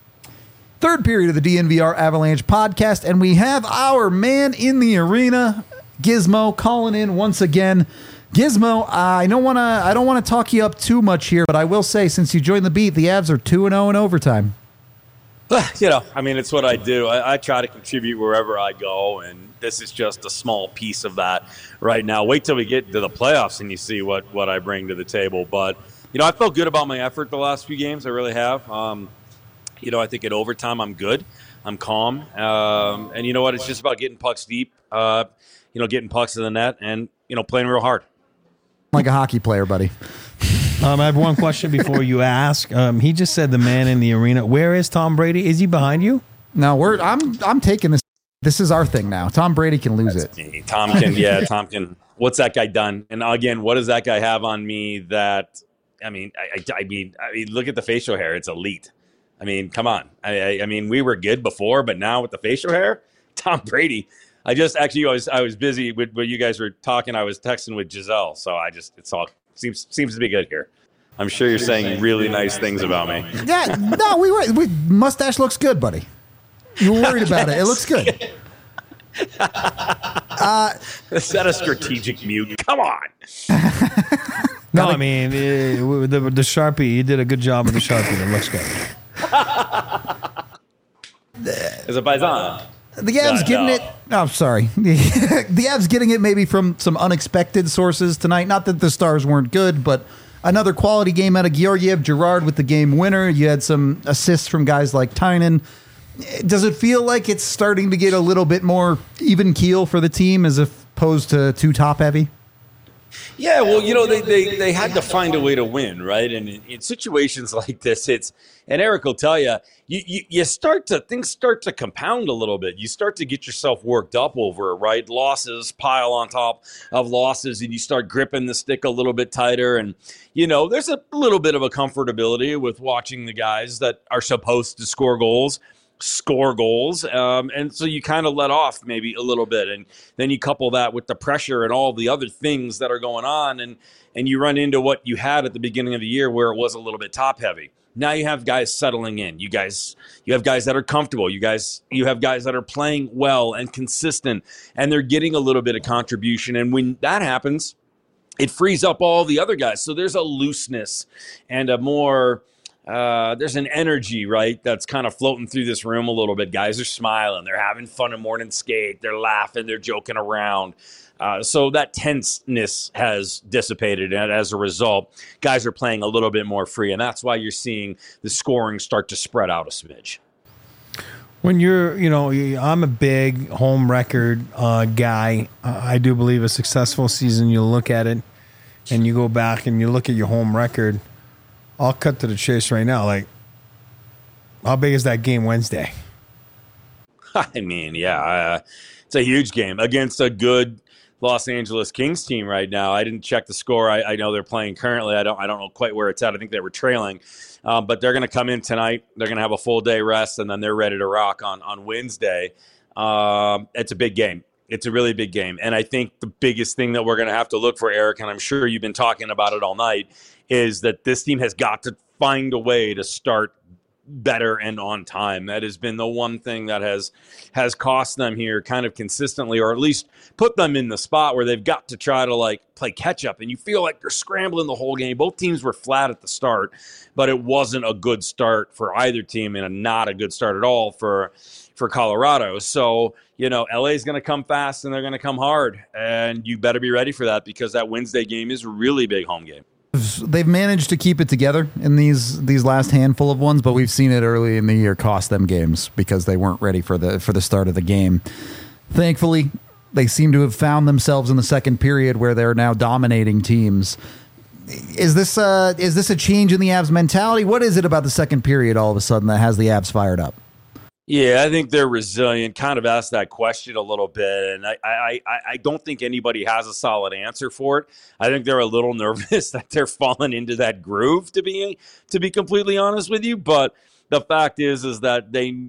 Third period of the D N V R Avalanche podcast, and we have our man in the arena, Gizmo, calling in once again. Gizmo, I don't want to I don't want to talk you up too much here, but I will say, since you joined the beat, the Avs are two and oh in overtime. You know, I mean, it's what I do. I, I try to contribute wherever I go, and this is just a small piece of that right now. Wait till we get to the playoffs and you see what, what I bring to the table. But, you know, I felt good about my effort the last few games. I really have. Um, You know, I think at overtime I'm good. I'm calm. Um, and you know what? It's just about getting pucks deep, uh, you know, getting pucks in the net and, you know, playing real hard. Like a hockey player, buddy. Um, I have one question before you ask. Um, he just said the man in the arena. Where is Tom Brady? Is he behind you? No, we're I'm I'm taking this. This is our thing now. Tom Brady can lose That's it. me. Tom can, yeah, Tom can. What's that guy done? And again, what does that guy have on me that, I mean, I, I, I mean, I mean, look at the facial hair. It's elite. I mean, come on. I, I, I mean, we were good before, but now with the facial hair, Tom Brady. I just actually I was I was busy with when you guys were talking. I was texting with Giselle, so I just it's all seems seems to be good here. I'm sure you're saying really nice things about me. Yeah, no, we were. We, mustache looks good, buddy. You were worried about it. It looks good. Uh, Is that a strategic mute? Come on. No, I mean, uh, the, the Sharpie, you did a good job with the Sharpie. It looks good. Is it Paisan? The Avs No, getting no. it. Oh, sorry. The Avs getting it maybe from some unexpected sources tonight. Not that the Stars weren't good, but another quality game out of Georgiev. Gerard with the game winner. You had some assists from guys like Tynan. Does it feel like it's starting to get a little bit more even keel for the team as opposed to too top heavy? Yeah, well, you know, they, they, they had to find a way to win, right? And in, in situations like this, it's, and Eric will tell you, you, you, you start to, things start to compound a little bit. You start to get yourself worked up over it, right? Losses pile on top of losses, and you start gripping the stick a little bit tighter. And, you know, there's a little bit of a comfortability with watching the guys that are supposed to score goals score goals. Um, and so you kind of let off maybe a little bit. And then you couple that with the pressure and all the other things that are going on. And, and you run into what you had at the beginning of the year where it was a little bit top heavy. Now you have guys settling in. You guys, you have guys that are comfortable. You guys, you have guys that are playing well and consistent, and they're getting a little bit of contribution. And when that happens, it frees up all the other guys. So there's a looseness and a more, Uh, there's an energy, right, that's kind of floating through this room a little bit. Guys are smiling. They're having fun in morning skate. They're laughing. They're joking around. Uh, so that tenseness has dissipated, and as a result, guys are playing a little bit more free, and that's why you're seeing the scoring start to spread out a smidge. When you're, you know, I'm a big home record uh, guy. I do believe a successful season, you look at it, and you go back and you look at your home record. I'll cut to the chase right now. Like, how big is that game Wednesday? I mean, yeah, uh, it's a huge game against a good Los Angeles Kings team right now. I didn't check the score. I, I know they're playing currently. I don't. I don't know quite where it's at. I think they were trailing, um, but they're going to come in tonight. They're going to have a full day rest, and then they're ready to rock on on Wednesday. Um, it's a big game. It's a really big game, and I think the biggest thing that we're going to have to look for, Eric, and I'm sure you've been talking about it all night, is that this team has got to find a way to start better and on time. That has been the one thing that has has cost them here kind of consistently, or at least put them in the spot where they've got to try to like play catch up. And you feel like they're scrambling the whole game. Both teams were flat at the start, but it wasn't a good start for either team and a, not a good start at all for for Colorado. So, you know, L A is going to come fast and they're going to come hard, and you better be ready for that because that Wednesday game is a really big home game. They've managed to keep it together in these these last handful of ones, but we've seen it early in the year cost them games because they weren't ready for the for the start of the game. Thankfully, they seem to have found themselves in the second period where they're now dominating teams. Is this uh, is this a change in the Avs mentality? What is it about the second period all of a sudden that has the Avs fired up? Yeah, I think they're resilient. Kind of asked that question a little bit, and I, I, I don't think anybody has a solid answer for it. I think they're a little nervous that they're falling into that groove, to be to be completely honest with you. But the fact is, is that they.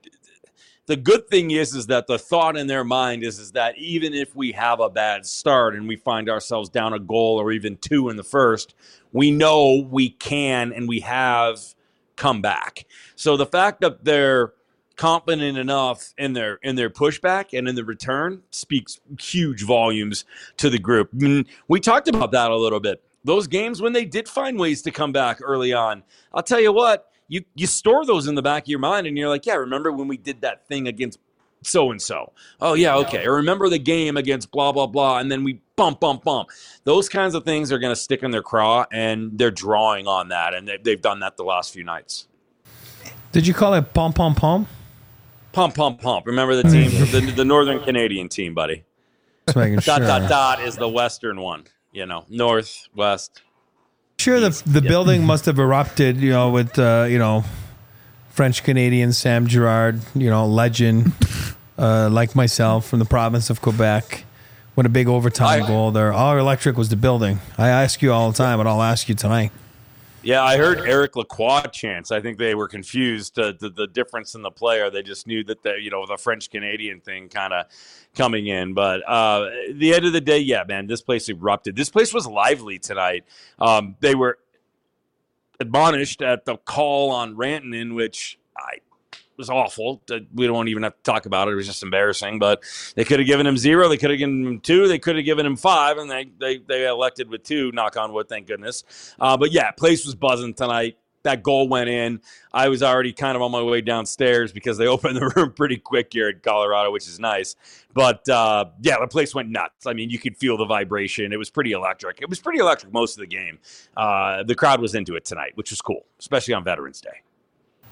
The good thing is, is that the thought in their mind is, is that even if we have a bad start and we find ourselves down a goal or even two in the first, we know we can and we have come back. So the fact that they're confident enough in their in their pushback and in the return speaks huge volumes to the group. I mean, we talked about that a little bit. Those games when they did find ways to come back early on, I'll tell you what, you you store those in the back of your mind and you're like, yeah, remember when we did that thing against so-and-so? Oh, yeah, okay. I remember the game against blah, blah, blah, and then we bump, bump, bump. Those kinds of things are going to stick in their craw, and they're drawing on that, and they, they've done that the last few nights. Did you call it pom, pom, pom? Pump, pump, pump. Remember the team, the, the Northern Canadian team, buddy. Just making dot, sure. dot, dot is the Western one. You know, North, West. Sure, the the yeah. building must have erupted, you know, with, uh, you know, French Canadian Sam Girard, you know, legend, uh, like myself from the province of Quebec, with a big overtime I, goal there. All electric was the building. I ask you all the time, and I'll ask you tonight. Yeah, I heard Eric Lacroix chants. I think they were confused uh, the, the difference in the player. They just knew that the you know the French Canadian thing kind of coming in. But uh, at the end of the day, yeah, man, this place erupted. This place was lively tonight. Um, they were admonished at the call on Rantanen, which I was awful. We don't even have to talk about it. It was just embarrassing. But they could have given him zero. They could have given him two. They could have given him five. And they they, they elected with two, knock on wood, thank goodness. Uh, but, yeah, place was buzzing tonight. That goal went in. I was already kind of on my way downstairs because they opened the room pretty quick here in Colorado, which is nice. But, uh, yeah, the place went nuts. I mean, you could feel the vibration. It was pretty electric. It was pretty electric most of the game. Uh, the crowd was into it tonight, which was cool, especially on Veterans Day.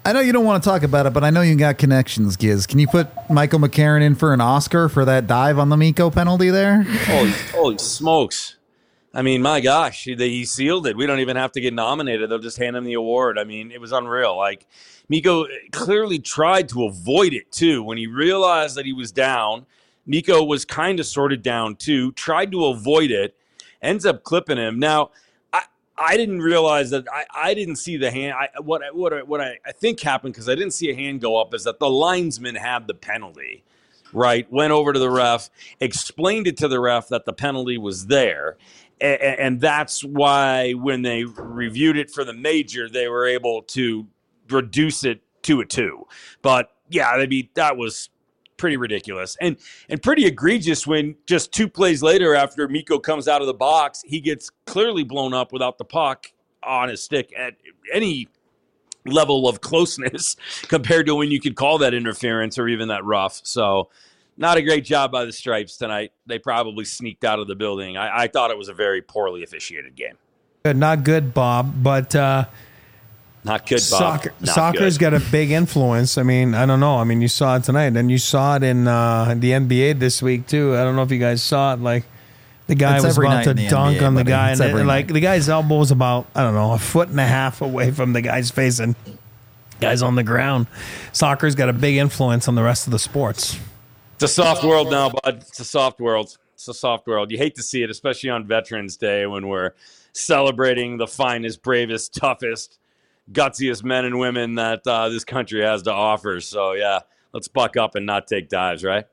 I know you don't want to talk about it, but I know you got connections, Giz. Can you put Michael McCarron in for an Oscar for that dive on the Mikko penalty there? Holy, holy smokes. I mean, my gosh, he, he sealed it. We don't even have to get nominated. They'll just hand him the award. I mean, it was unreal. Like, Mikko clearly tried to avoid it, too. When he realized that he was down, Mikko was kind of sorted down, too, tried to avoid it, ends up clipping him. Now, I, I didn't realize that I, I didn't see the hand. I, what I, what I, what I, I think happened, because I didn't see a hand go up, is that the linesman had the penalty, right? Went over to the ref, explained it to the ref that the penalty was there. And, and that's why when they reviewed it for the major, they were able to reduce it to a two. But, yeah, I mean, that was pretty ridiculous and and pretty egregious when just two plays later after Mikko comes out of the box, he gets clearly blown up without the puck on his stick at any level of closeness compared to when you could call that interference or even that rough. So not a great job by the Stripes tonight. They probably sneaked out of the building. I, I thought it was a very poorly officiated game. Good, not good, Bob, but uh Not good, Bob. Soccer, Not soccer's good. got a big influence. I mean, I don't know. I mean, you saw it tonight, and you saw it in uh, the N B A this week too. I don't know if you guys saw it. Like, the guy It's was every about night to in the dunk N B A, on the buddy. guy, It's and every it, like night. the guy's elbow was about I don't know a foot and a half away from the guy's face, and guy's on the ground. Soccer's got a big influence on the rest of the sports. It's a soft world now, bud. It's a soft world. It's a soft world. You hate to see it, especially on Veterans Day when we're celebrating the finest, bravest, toughest, gutsiest men and women that uh, this country has to offer. So, yeah, let's buck up and not take dives, right?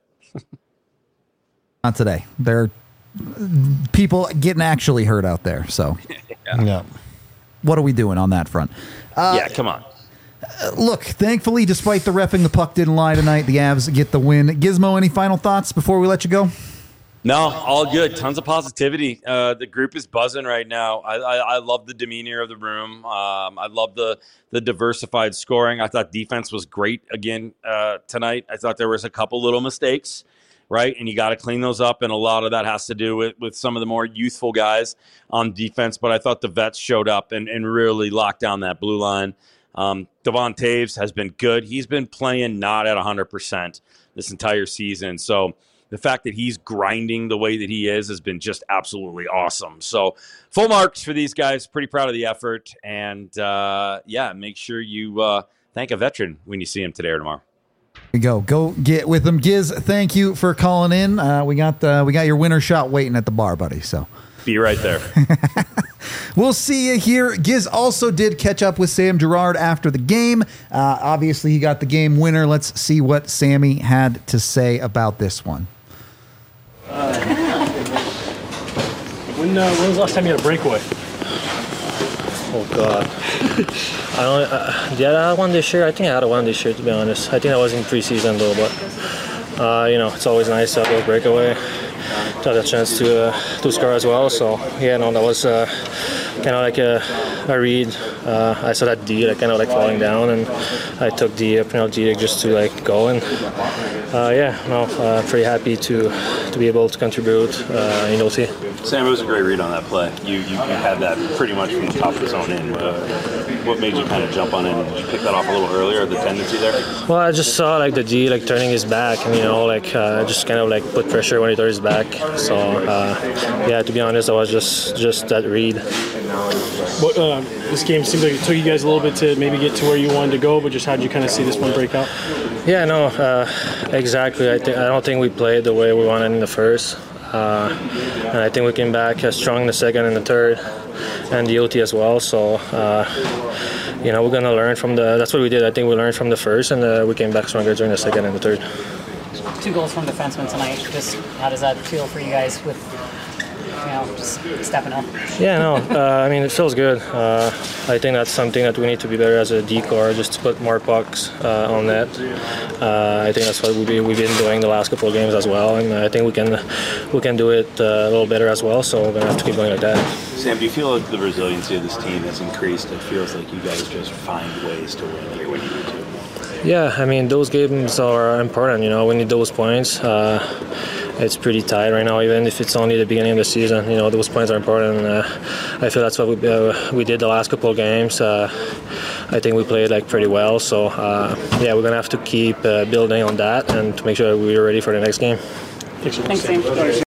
Not today. There are people getting actually hurt out there. So, yeah. yeah. What are we doing on that front? Uh, yeah, come on. Uh, look, thankfully, despite the reffing, the puck didn't lie tonight. The Avs get the win. Gizmo, any final thoughts before we let you go? No, all good. Tons of positivity. Uh, the group is buzzing right now. I, I, I love the demeanor of the room. Um, I love the the diversified scoring. I thought defense was great again uh, tonight. I thought there was a couple little mistakes, right? And you got to clean those up. And a lot of that has to do with, with some of the more youthful guys on defense. But I thought the vets showed up and, and really locked down that blue line. Um, Devon Taves has been good. He's been playing not at one hundred percent this entire season. So the fact that he's grinding the way that he is has been just absolutely awesome. So full marks for these guys. Pretty proud of the effort. And, uh, yeah, make sure you uh, thank a veteran when you see him today or tomorrow. There you go. Go get with them. Giz, thank you for calling in. Uh, we got uh, we got your winner shot waiting at the bar, buddy. So be right there. We'll see you here. Giz also did catch up with Sam Girard after the game. Uh, obviously, he got the game winner. Let's see what Sammy had to say about this one. Uh, when, uh, when was the last time you had a breakaway? Oh God, I don't. Uh, did I have one this year? I think I had a one this year, to be honest. I think that was in preseason though, but uh, you know, it's always nice to have a breakaway, to have a chance to uh, to score as well. So yeah, no, that was uh, kind of like a, a read. Uh, I saw that D, like kind of like falling down, and I took the uh, penalty just to like go and uh, yeah, no, uh, pretty happy to to be able to contribute uh, in O T. Sam, it was a great read on that play. You, you you had that pretty much from the top of the zone in. Uh, what made you kind of jump on it? Did you pick that off a little earlier, the tendency there? Well, I just saw like the D like turning his back, and you know, like uh, just kind of like put pressure when he turned his back. So uh, yeah, to be honest, I was just just that read. What, uh, this game seems like it took you guys a little bit to maybe get to where you wanted to go, but just how did you kind of see this one break out? Yeah, no, uh, exactly. I think I don't think we played the way we wanted in the first. Uh, and I think we came back uh, strong in the second and the third, and the O T as well. So, uh, you know, we're gonna learn from the. That's what we did. I think we learned from the first, and uh, we came back stronger during the second and the third. Two goals from defensemen tonight. Just how does that feel for you guys with, you know, just stepping up? Yeah, no, uh, I mean, it feels good. Uh, I think that's something that we need to be better as a D-core, just to put more pucks uh, on net. Uh, I think that's what we've been doing the last couple of games as well, and I think we can we can do it uh, a little better as well, so we're going to have to keep going like that. Sam, do you feel like the resiliency of this team has increased? It feels like you guys just find ways to win here when you need to. Yeah, I mean, those games are important, you know, we need those points. Uh, it's pretty tight right now, even if it's only the beginning of the season. You know, those points are important, and uh, I feel that's what we uh, we did the last couple of games. Uh, I think we played like pretty well, so uh, yeah, we're gonna have to keep uh, building on that and to make sure we're ready for the next game. Thanks, Sam.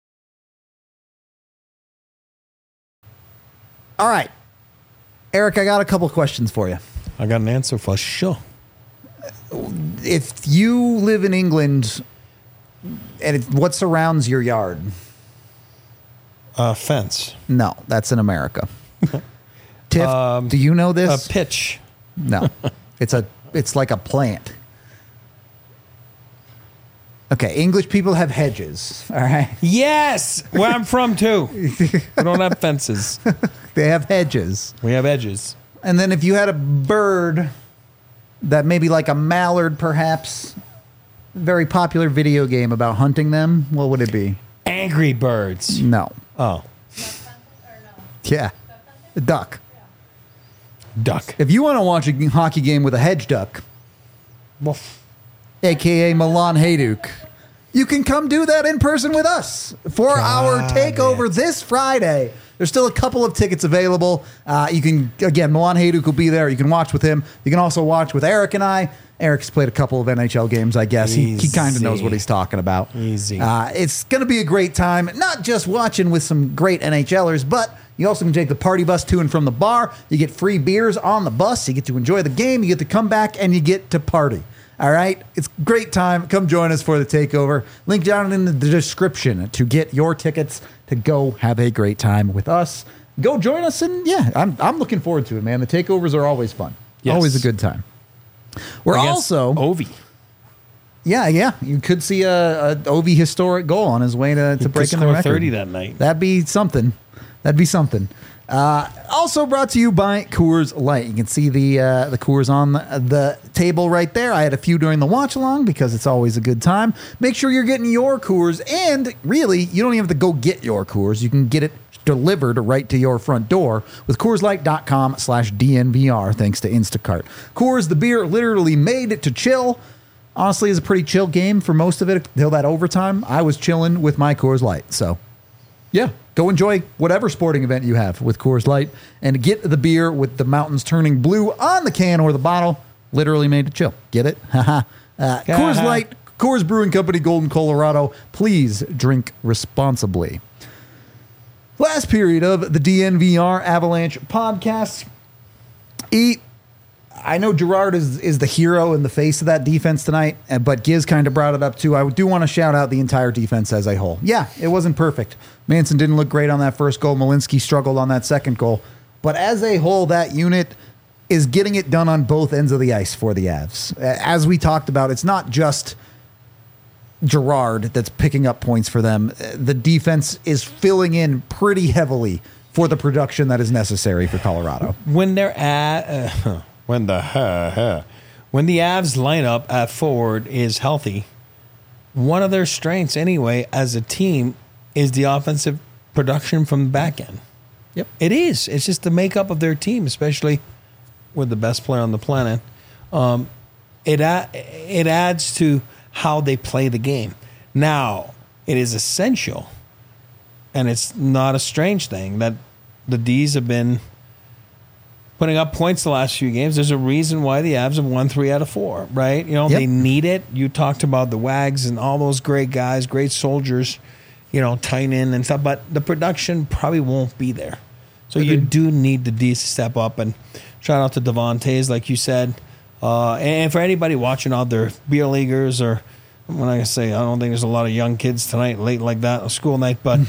All right. Eric, I got a couple questions for you. I got an answer for sure. If you live in England, and it, what surrounds your yard? A fence. No, that's in America. Tiff, Um, do you know this? A pitch. No, it's a it's like a plant. Okay, English people have hedges. All right. Yes, where I'm from too. We don't have fences. They have hedges. We have edges. And then if you had a bird that maybe like a mallard, perhaps, very popular video game about hunting them, what would it be? Angry Birds. No. Oh. Yeah. A duck. Duck. If you want to watch a hockey game with a hedge duck, Woof. A K A Milan Hajduk, you can come do that in person with us for our takeover this Friday. There's still a couple of tickets available. Uh, you can, again, Milan Hajduk will be there. You can watch with him. You can also watch with Eric and I. Eric's played a couple of N H L games, I guess. He, he kind of knows what he's talking about. Easy. Uh, it's going to be a great time, not just watching with some great NHLers, but you also can take the party bus to and from the bar. You get free beers on the bus. You get to enjoy the game. You get to come back, and you get to party. All right? It's a great time. Come join us for the takeover. Link down in the description to get your tickets to go have a great time with us. Go join us, and yeah, I'm, I'm looking forward to it, man. The takeovers are always fun. Yes. Always a good time. We're Against also... Ovi. Yeah, yeah. You could see a, a Ovi historic goal on his way to, to breaking the score record. thirty that night. That'd be something. That'd be something. Uh, also brought to you by Coors Light. You can see the uh, the Coors on the, the table right there. I had a few during the watch along because it's always a good time. Make sure you're getting your Coors, and really, you don't even have to go get your Coors. You can get it delivered right to your front door with Coors Light dot com slash D N V R thanks to Instacart. Coors, the beer literally made to chill. Honestly, it's a pretty chill game for most of it until that overtime. I was chilling with my Coors Light, so yeah, go enjoy whatever sporting event you have with Coors Light and get the beer with the mountains turning blue on the can or the bottle. Literally made to chill. Get it? Haha. uh, Coors Light, Coors Brewing Company, Golden, Colorado. Please drink responsibly. Last period of the D N V R Avalanche podcast. E, I know Gerard is, is the hero and the face of that defense tonight, but Giz kind of brought it up too. I do want to shout out the entire defense as a whole. Yeah, it wasn't perfect. Manson didn't look great on that first goal. Malinsky struggled on that second goal. But as a whole, that unit is getting it done on both ends of the ice for the Avs. As we talked about, it's not just Gerard that's picking up points for them. The defense is filling in pretty heavily for the production that is necessary for Colorado. When they're at... Uh, When the huh, huh. when the Avs lineup at forward is healthy, one of their strengths anyway as a team is the offensive production from the back end. Yep, it is. It's just the makeup of their team, especially with the best player on the planet. Um, it a- it adds to how they play the game. Now, it is essential, and it's not a strange thing that the D's have been putting up points the last few games. There's a reason why the Avs have won three out of four, right? You know, Yep. they need it. You talked about the Wags and all those great guys, great soldiers, you know, Tynan and stuff, but the production probably won't be there. So you do need the D's to step up. And shout out to Devontae, like you said. Uh, and for anybody watching out there, beer leaguers, or when I say, I don't think there's a lot of young kids tonight, late like that, a school night, but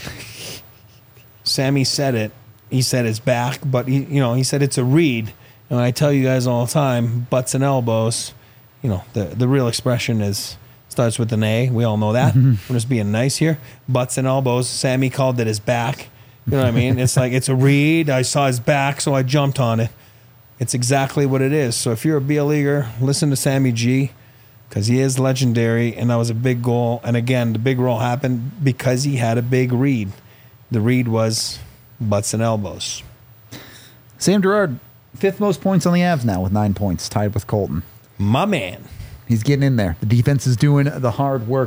Sammy said it. He said it's back, but he, you know, he said it's a read. And I tell you guys all the time, butts and elbows, you know, the, the real expression is starts with an A. We all know that. I'm just being nice here. Butts and elbows. Sammy called it his back. You know what I mean? It's like, it's a read. I saw his back, so I jumped on it. It's exactly what it is. So if you're a beer leaguer, listen to Sammy G, because he is legendary, and that was a big goal. And again, the big roll happened because he had a big read. The read was butts and elbows. Sam Girard, fifth most points on the Avs now with nine points, tied with Colton. My man. He's getting in there. The defense is doing the hard work.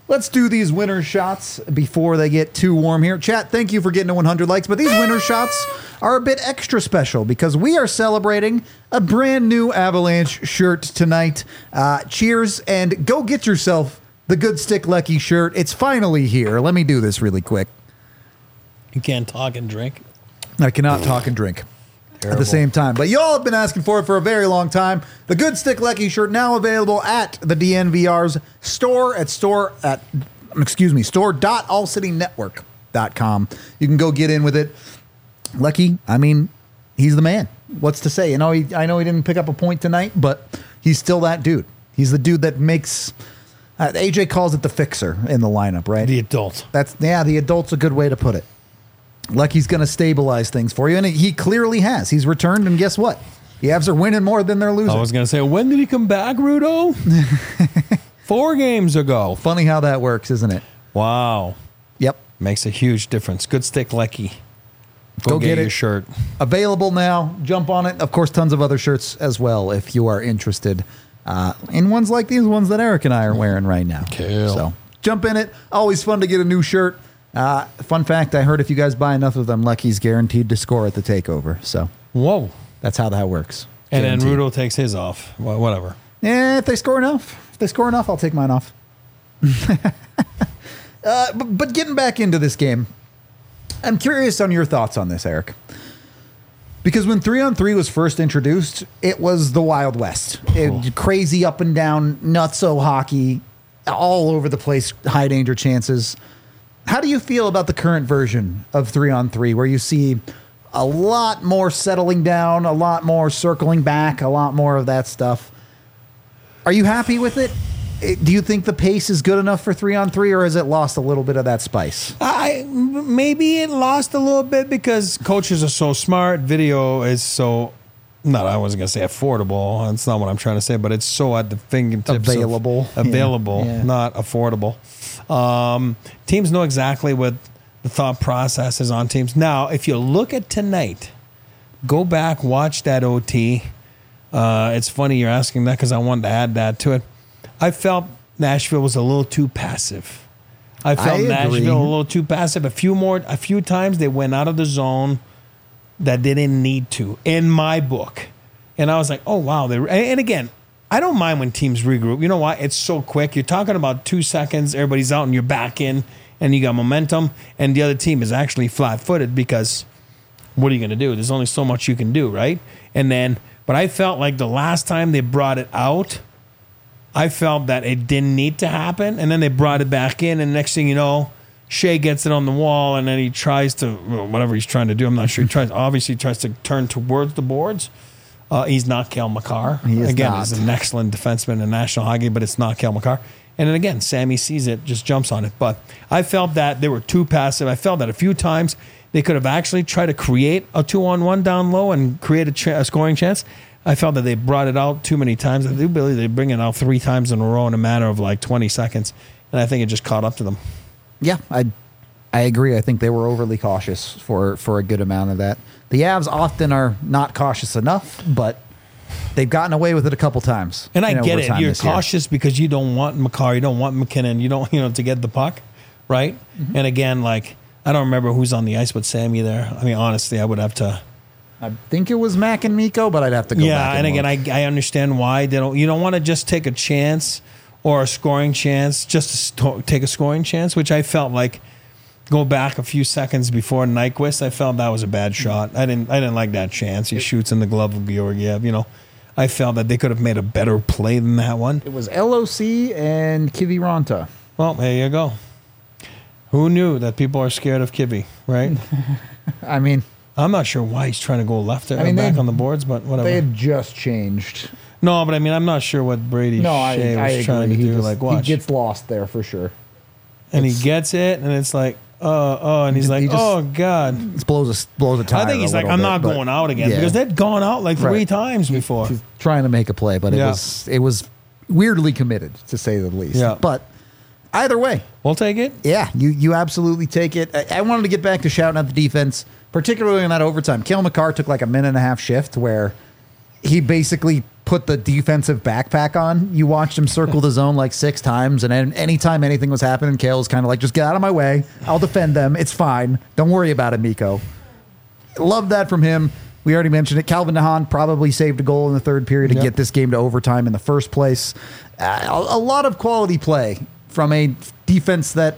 Let's do these winner shots before they get too warm here. Chat, thank you for getting to one hundred likes, but these winner shots are a bit extra special because we are celebrating a brand new Avalanche shirt tonight. Uh, cheers, and go get yourself the Good Stick Lucky shirt. It's finally here. Let me do this really quick. You can't talk and drink. I cannot talk and drink. Terrible. At the same time. But y'all have been asking for it for a very long time. The Good Stick Lucky shirt now available at the D N V R's store at store at excuse me, store dot all city network dot com. You can go get in with it. Lucky, I mean, he's the man. What's to say? You know, he, I know he didn't pick up a point tonight, but he's still that dude. He's the dude that makes uh, A J calls it the fixer in the lineup, right? The adult. That's yeah, the adult's a good way to put it. Lucky's going to stabilize things for you, and he clearly has. He's returned, and guess what? The Avs are winning more than they're losing. I was going to say, when did he come back, Rudo? Four games ago. Funny how that works, isn't it? Wow. Yep. Makes a huge difference. Good Stick Lucky. Go, Go get, get your it. shirt. Available now. Jump on it. Of course, tons of other shirts as well if you are interested uh, in ones like these ones that Eric and I are wearing right now. Cool. So jump in it. Always fun to get a new shirt. Uh, fun fact, I heard if you guys buy enough of them, Lucky's guaranteed to score at the takeover. So, whoa, that's how that works. And Guaranteed. then Rudo takes his off. Well, whatever. Yeah, if they score enough, if they score enough, I'll take mine off. uh, but, but getting back into this game, I'm curious on your thoughts on this, Eric. Because when three on three was first introduced, it was the Wild West. It, crazy up and down, nutso hockey, all over the place, high danger chances. How do you feel about the current version of three on three, where you see a lot more settling down, a lot more circling back, a lot more of that stuff? Are you happy with it? Do you think the pace is good enough for three on three, or has it lost a little bit of that spice? I maybe it lost a little bit because coaches are so smart. Video is so not. I wasn't gonna say affordable. That's not what I'm trying to say. But it's so at the fingertips. Available. Of, available, Yeah. Yeah. not affordable. Um, teams know exactly what the thought process is on teams. Now, if you look at tonight, go back, watch that O T. Uh, it's funny you're asking that because I wanted to add that to it. I felt Nashville was a little too passive. I felt I agree. Nashville a little too passive. A few more, a few times they went out of the zone that they didn't need to, in my book. And I was like, oh wow. They and again, I don't mind when teams regroup. You know why? It's so quick. You're talking about two seconds. Everybody's out and you're back in, and you got momentum. And the other team is actually flat-footed because what are you going to do? There's only so much you can do, right? And then, but I felt like the last time they brought it out, I felt that it didn't need to happen, and then they brought it back in, and next thing you know, Shea gets it on the wall, and then he tries to, well, whatever he's trying to do, I'm not sure. He tries, obviously tries to turn towards the boards. Uh, he's not Cale Makar. He is again, not. he's an excellent defenseman in National Hockey, but it's not Cale Makar. And then again, Sammy sees it, just jumps on it. But I felt that they were too passive. I felt that a few times they could have actually tried to create a two-on-one down low and create a, ch- a scoring chance. I felt that they brought it out too many times. I do believe they bring it out three times in a row in a matter of like twenty seconds. And I think it just caught up to them. Yeah, I I agree. I think they were overly cautious for, for a good amount of that. The Avs often are not cautious enough, but they've gotten away with it a couple times. And I in get it. overtime You're this year. cautious because you don't want Makar, you don't want McKinnon, you don't, you know, to get the puck, right? Mm-hmm. And again, like, I don't remember who's on the ice with Sammy there. I mean, honestly, I would have to. I think it was Mac and Miko, but I'd have to go yeah, back. and, and again, look. I I understand why they don't. You don't want to just take a chance or a scoring chance, just to sto- take a scoring chance, which I felt like. Go back a few seconds before Nyquist, I felt that was a bad shot. I didn't. I didn't like that chance. He shoots in the glove of Georgiev. You know, I felt that they could have made a better play than that one. It was L O C and Kiviranta. Well, there you go. Who knew that people are scared of Kivy, right? I mean, I'm not sure why he's trying to go left there I mean, back they- on the boards, but whatever. They had just changed. No, but I mean, I'm not sure what Brady No, I, Shea was I agree. trying to he do. just- like, watch. He gets lost there for sure. and it's- he gets it, and it's like, oh, oh, and he's He like, just- oh, God. It blows a, blows a tire I think he's a like, little I'm bit, not but- going out again yeah. because they'd gone out like three Right. times before. He's trying to make a play, but it Yeah. was it was weirdly committed, to say the least. Yeah. But either way, we'll take it. Yeah, you you absolutely take it. I, I wanted to get back to shouting at the defense, particularly in that overtime. Cale Makar took like a minute and a half shift where he basically put the defensive backpack on. You watched him circle the zone like six times, and then anytime anything was happening, Kale was kind of like, just get out of my way. I'll defend them. It's fine. Don't worry about it, Mikko. Love that from him. We already mentioned it. Calvin DeHaan probably saved a goal in the third period to Yep. get this game to overtime in the first place. Uh, a, a lot of quality play from a defense that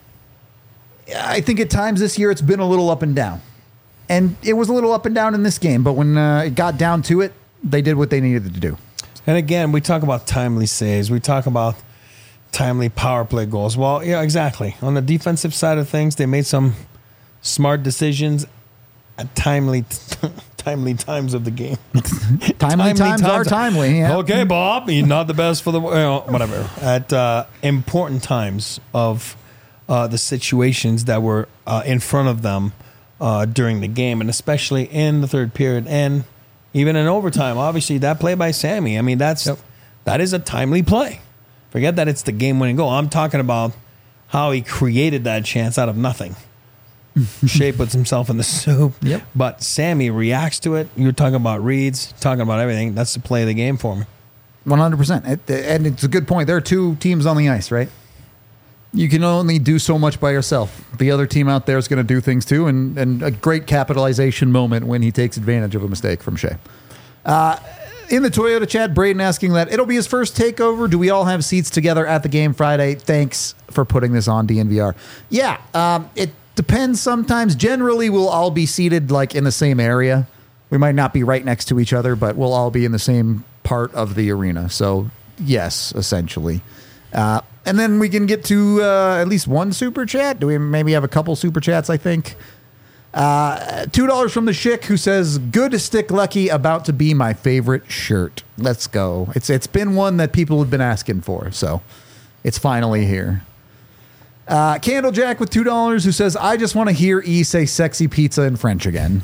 I think at times this year it's been a little up and down. And it was a little up and down in this game, but when uh, it got down to it, they did what they needed to do. And again, we talk about timely saves. We talk about timely power play goals. Well, yeah, exactly. On the defensive side of things, they made some smart decisions at timely timely times of the game. timely, timely times, times are timely. Yeah. Okay, Bob, you're not the best for the you know, whatever. At uh, important times of uh, the situations that were uh, in front of them uh, during the game, and especially in the third period and even in overtime. Obviously, that play by Sammy, I mean, that's yep. that is a timely play. Forget that it's the game-winning goal. I'm talking about how he created that chance out of nothing. Shea puts himself in the soup. Yep. But Sammy reacts to it. You're talking about reads, talking about everything. That's the play of the game for me. one hundred percent. It, and it's a good point. There are two teams on the ice, right? You can only do so much by yourself. The other team out there is going to do things too, and, and a great capitalization moment when he takes advantage of a mistake from Shea. Uh, in the Toyota chat, Braden asking that it'll be his first takeover. Do we all have seats together at the game Friday? Thanks for putting this on D N V R. Yeah, um, it depends sometimes. Generally, we'll all be seated like in the same area. We might not be right next to each other, but we'll all be in the same part of the arena. So, yes, essentially. Uh, and then we can get to uh, at least one super chat. Do we maybe have a couple super chats, I think? Uh, two dollars from the Schick, who says, good stick lucky, about to be my favorite shirt. Let's go. It's It's been one that people have been asking for, so it's finally here. Uh, Candlejack with two dollars, who says, I just want to hear E say sexy pizza in French again.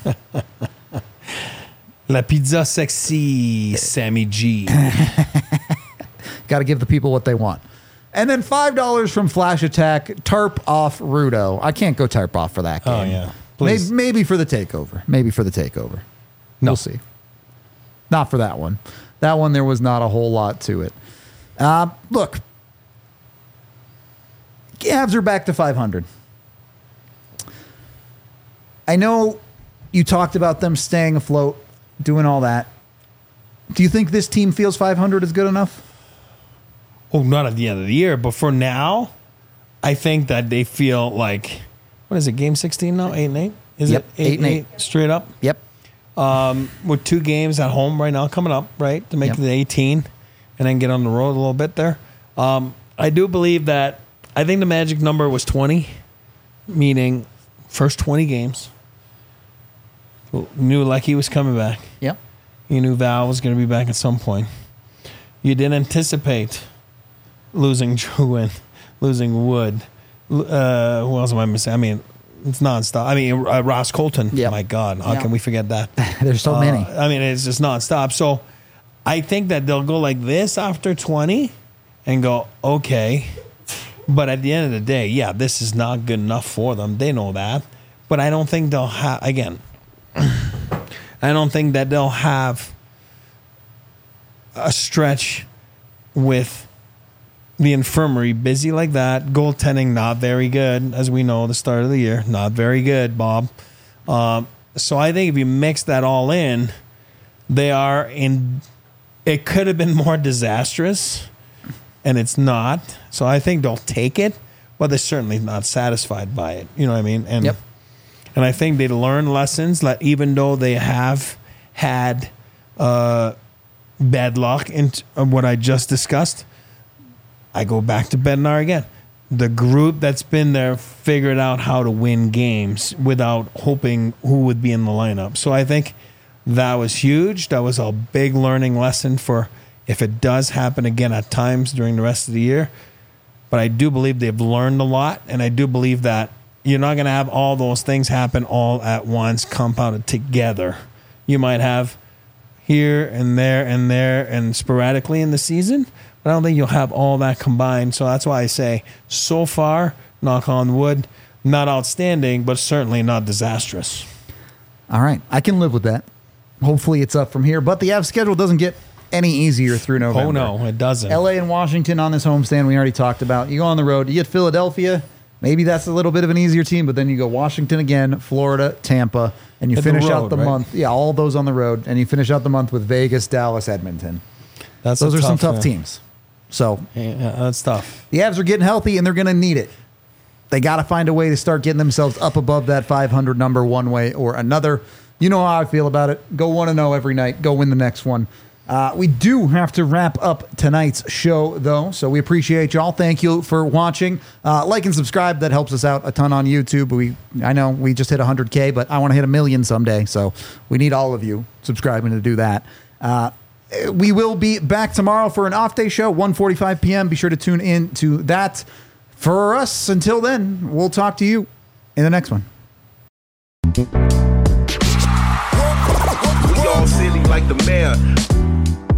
La pizza sexy, Sammy G. Got to give the people what they want. And then five dollars from Flash Attack, tarp off Rudo. I can't go tarp off for that game. Oh, yeah. Maybe, maybe for the takeover. Maybe for the takeover. No. We'll see. Not for that one. That one, there was not a whole lot to it. Uh, look. Avs are back to five hundred. I know you talked about them staying afloat, doing all that. Do you think this team feels five hundred is good enough? Oh, not at the end of the year, but for now, I think that they feel like, what is it, game sixteen now? Eight and eight? Is Yep, it eight, eight and and eight, straight up? Yep. Um, with two games at home right now coming up, right, to make Yep. it the eighteen and then get on the road a little bit there. Um, I do believe that, I think the magic number was twenty, meaning first twenty games. Knew Lecky was coming back. Yep. You knew Val was going to be back at some point. You didn't anticipate losing Drouin, losing Wood. Uh, who else am I missing? I mean, it's nonstop. I mean, uh, Ross Colton. Yep. My God, how Yep. can we forget that? There's so Uh, many. I mean, it's just nonstop. So I think that they'll go like this after twenty and go, okay. But at the end of the day, yeah, this is not good enough for them. They know that. But I don't think they'll have, again, I don't think that they'll have a stretch with the infirmary busy like that. Goaltending not very good, as we know, the start of the year. Not very good, Bob. Um, so I think if you mix that all in, they are in, it could have been more disastrous, and it's not. So I think they'll take it, but they're certainly not satisfied by it. You know what I mean? And Yep. And I think they learn lessons that even though they have had uh, bad luck in t- what I just discussed, I go back to Bednar again. The group that's been there figured out how to win games without hoping who would be in the lineup. So I think that was huge. That was a big learning lesson for if it does happen again at times during the rest of the year. But I do believe they've learned a lot, and I do believe that you're not going to have all those things happen all at once, compounded together. You might have here and there and there and sporadically in the season, but I don't think you'll have all that combined. So that's why I say, so far, knock on wood, not outstanding, but certainly not disastrous. All right. I can live with that. hopefully it's up from here. But the Avs schedule doesn't get any easier through November. Oh, no, it doesn't. L A and Washington on this homestand we already talked about. You go on the road, you get Philadelphia. Maybe that's a little bit of an easier team, but then you go Washington again, Florida, Tampa, and you Hit the finish road, out the right? month. Yeah, all those on the road, and you finish out the month with Vegas, Dallas, Edmonton. That's Those a are some tough, tough uh, teams. So Yeah, that's tough. the Avs are getting healthy, and they're going to need it. They got to find a way to start getting themselves up above that five hundred number one way or another. You know how I feel about it. Go one and oh every night. Go win the next one. Uh, we do have to wrap up tonight's show, though, so we appreciate y'all. Thank you for watching. Uh, like and subscribe. That helps us out a ton on YouTube. We, I know we just hit one hundred K, but I want to hit a million someday, so we need all of you subscribing to do that. Uh, we will be back tomorrow for an off-day show, one forty-five p.m. Be sure to tune in to that. For us, until then, we'll talk to you in the next one. We all silly like the mayor.